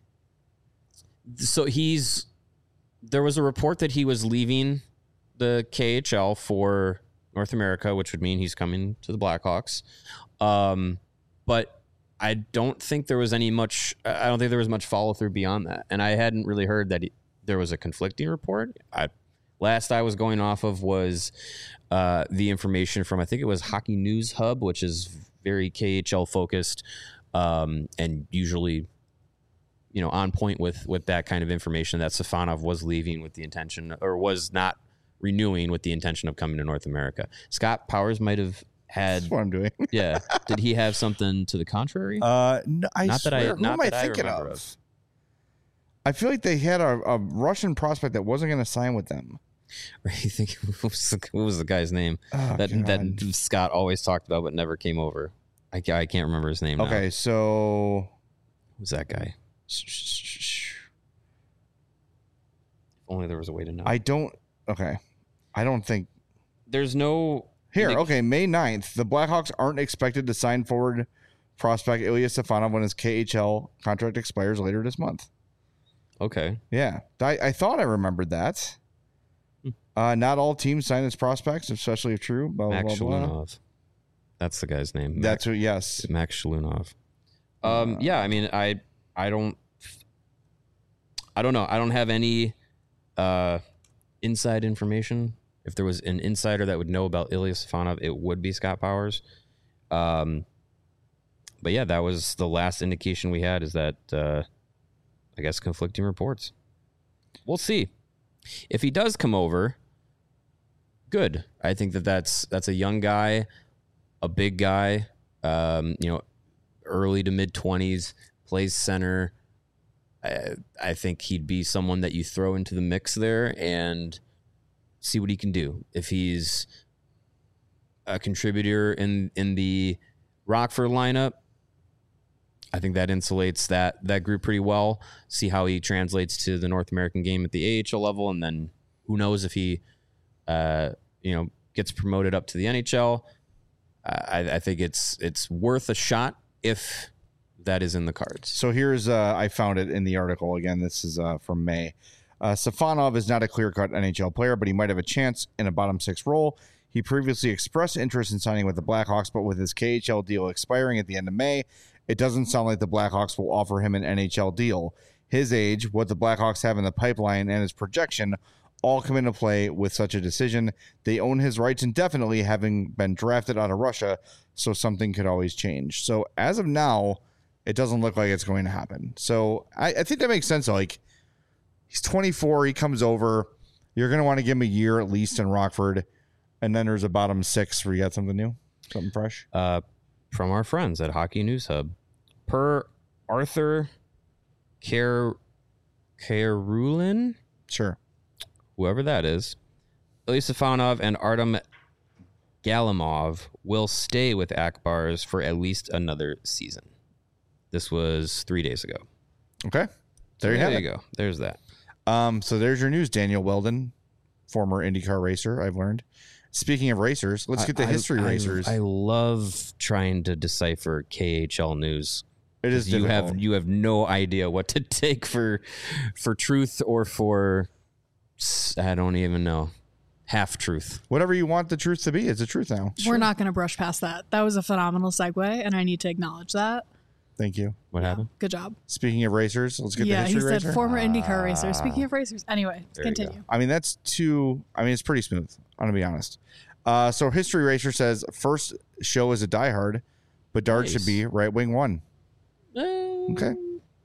So he's there was a report that he was leaving the K H L for North America, which would mean he's coming to the Blackhawks. Um, but I don't think there was any much. I don't think there was much follow through beyond that, and I hadn't really heard that he, there was a conflicting report. I last I was going off of was uh, the information from I think it was Hockey News Hub, which is very K H L focused um, and usually, you know, on point with with that kind of information, that Safonov was leaving with the intention, or was not renewing with the intention of coming to North America. Scott Powers might have had, That's what I'm doing. yeah. Did he have something to the contrary? Uh, no, I Not that I- swear, who not am I that I thinking remember of? of. I feel like they had a, a Russian prospect that wasn't going to sign with them. Or you think what was, the, what was the guy's name Oh, that God. that Scott always talked about but never came over? I, ca- I can't remember his name. now. Okay, so Who's that guy? If only there was a way to know. I don't. Okay, I don't think there's no Here, indic- okay, May ninth, the Blackhawks aren't expected to sign forward prospect Ilya Stefanov when his K H L contract expires later this month. Okay. Yeah, I, I thought I remembered that. Uh, not all teams sign as prospects, especially if true. Blah, blah, Max blah, blah. Shalunov. That's the guy's name. Max, That's who, yes. Max Shalunov. Um, yeah, I mean, I I don't I don't know. I don't have any uh, inside information. If there was an insider that would know about Ilya Stefanov, it would be Scott Powers. Um, but yeah, that was the last indication we had, is that uh, I guess conflicting reports. We'll see. If he does come over, good. I think that that's that's a young guy, a big guy, um, you know, early to mid twenties, plays center. I, I think he'd be someone that you throw into the mix there and see what he can do. If he's a contributor in in the Rockford lineup, I think that insulates that that group pretty well. See how he translates to the North American game at the A H L level, and then who knows if he, uh, you know, gets promoted up to the N H L. I, I think it's it's worth a shot if that is in the cards. So here's, uh, I found it in the article. Again, this is uh, from May. Uh, Stefanov is not a clear-cut N H L player, but he might have a chance in a bottom six role. He previously expressed interest in signing with the Blackhawks, but with his K H L deal expiring at the end of May, it doesn't sound like the Blackhawks will offer him an N H L deal. His age, what the Blackhawks have in the pipeline, and his projection all come into play with such a decision. They own his rights indefinitely, having been drafted out of Russia, so something could always change. So as of now, it doesn't look like it's going to happen. So I, I think that makes sense. Like, he's twenty-four, he comes over. You're going to want to give him a year at least in Rockford, and then there's a bottom six where you got something new, something fresh. Uh, from our friends at Hockey News Hub, per Arthur Ker Kerulin, Sure. whoever that is, Ilya Stefanov and Artem Galimov will stay with Akbars for at least another season. This was three days ago. Okay. There you there have you it. go. There's that. Um, so there's your news, Daniel Weldon, former IndyCar racer, I've learned. Speaking of racers, let's get the I- history I, racers. I, I love trying to decipher K H L news. it is You difficult. have you have no idea what to take for for truth or for s- I don't even know, half truth. Whatever you want the truth to be, it's the truth now. We're not going to brush past that. That was a phenomenal segue, and I need to acknowledge that. Thank you. What happened? Good job. Speaking of racers, let's get Yeah, the he history said racer. former IndyCar racer. Speaking of racers. Anyway, There you go. continue. I mean, that's too, I mean, it's pretty smooth. I'm going to be honest. Uh, so History Racer says first show is a diehard, but Dart Nice. should be right wing one. Okay.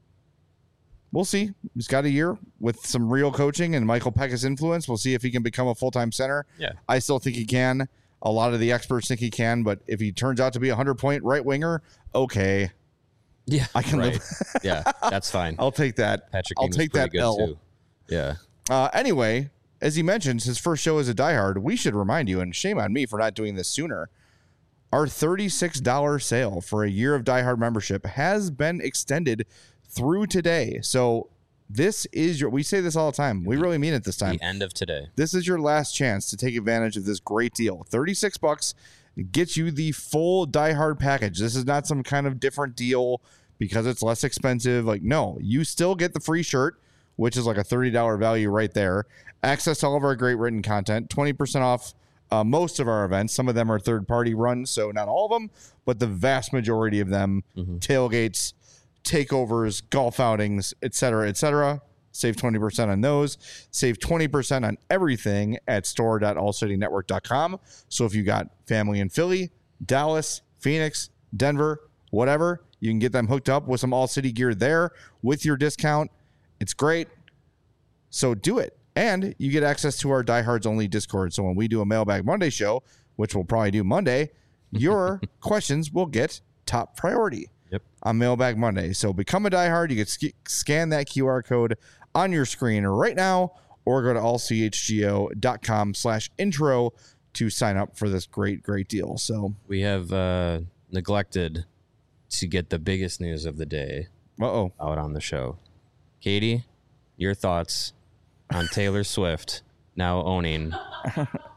We'll see. He's got a year with some real coaching and Michael Pekka's influence. We'll see if he can become a full-time center. Yeah. I still think he can. A lot of the experts think he can, but if he turns out to be a hundred-point right winger, okay. Yeah, I can right. live. Yeah, that's fine. I'll take that. Patrick I'll Kane was take pretty that good L. too. Yeah. Uh, anyway, as he mentions, his first show as a diehard, we should remind you, and shame on me for not doing this sooner, our thirty-six dollars sale for a year of diehard membership has been extended through today. So this is your, we say this all the time. We really mean it this time. The end of today. This is your last chance to take advantage of this great deal. thirty-six bucks gets you the full diehard package. This is not some kind of different deal because it's less expensive. Like, no, you still get the free shirt, which is like a thirty dollars value right there. Access to all of our great written content, twenty percent off uh, most of our events. Some of them are third-party runs, so not all of them, but the vast majority of them, Mm-hmm. tailgates, takeovers, golf outings, et cetera, et cetera. Save twenty percent on those. Save twenty percent on everything at store dot all city network dot com. So if you got family in Philly, Dallas, Phoenix, Denver, whatever, you can get them hooked up with some All City gear there with your discount. It's great. So do it. And you get access to our Diehards Only Discord. So when we do a Mailbag Monday show, which we'll probably do Monday, your questions will get top priority Yep. on Mailbag Monday. So become a diehard. You can sk- scan that Q R code on your screen right now or go to all c h g o dot com slash intro to sign up for this great, great deal. So, We have uh, neglected to get the biggest news of the day uh-oh. out on the show. Katie, your thoughts on Taylor Swift now owning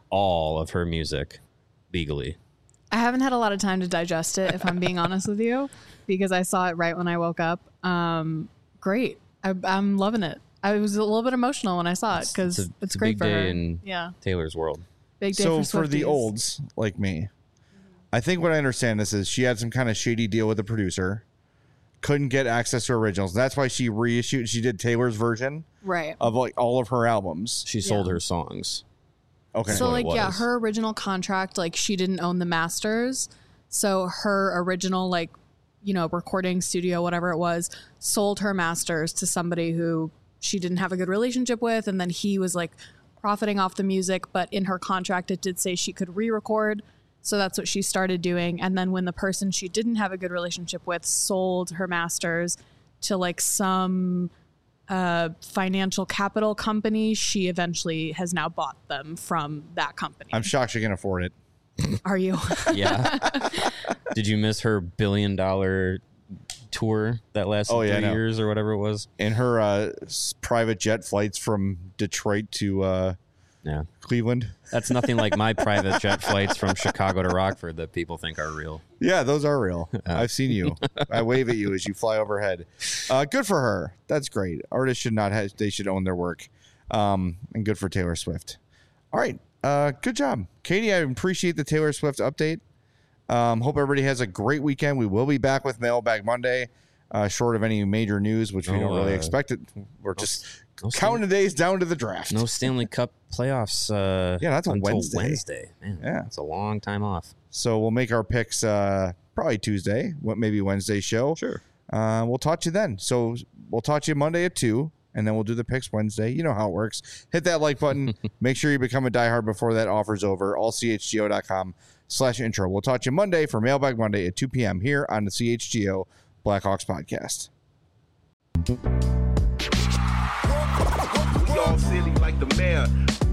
all of her music legally. I haven't had a lot of time to digest it, if I'm being honest with you, because I saw it right when I woke up. Um, great. I, I'm loving it. I was a little bit emotional when I saw it because it's, it's, a, it's great a big for day her. in yeah. Taylor's world. Big day so for, for the Swifties. olds like me, I think what I understand this is she had some kind of shady deal with the producer, couldn't get access to originals. That's why she reissued. She did Taylor's version Right. of like all of her albums. She sold Yeah. her songs. Okay. So what it like yeah, was. her original contract, like she didn't own the masters. So her original like, you know, recording studio, whatever it was, sold her masters to somebody who she didn't have a good relationship with, and then he was like profiting off the music, but in her contract it did say she could re-record. So that's what she started doing. And then when the person she didn't have a good relationship with sold her masters to like some uh, financial capital company, she eventually has now bought them from that company. I'm shocked she can afford it. Are you? Yeah. Did you miss her billion dollar tour that lasted Oh, yeah, I three know. years or whatever it was? In her uh, s- private jet flights from Detroit to uh, Yeah. Cleveland. That's nothing like my private jet flights from Chicago to Rockford that people think are real. Yeah, those are real. I've seen you. I wave at you as you fly overhead. Uh, good for her. That's great. Artists should not have, they should own their work. Um, and good for Taylor Swift. All right. Uh, good job. Katie, I appreciate the Taylor Swift update. Um, hope everybody has a great weekend. We will be back with Mailbag Monday, uh, short of any major news, which we No, don't really uh, expect it. We're just no counting the days down to the draft. No Stanley Cup playoffs. Uh, Yeah, that's a until Wednesday. Wednesday. Man, Yeah. it's a long time off. So we'll make our picks uh, probably Tuesday, what maybe Wednesday show. Sure. Uh, we'll talk to you then. So we'll talk to you Monday at two, and then we'll do the picks Wednesday. You know how it works. Hit that like button. Make sure you become a diehard before that offer's over. all c h g o dot com slash intro. We'll talk to you Monday for Mailbag Monday at two p.m. here on the C H G O Blackhawks podcast. We all silly like the mayor.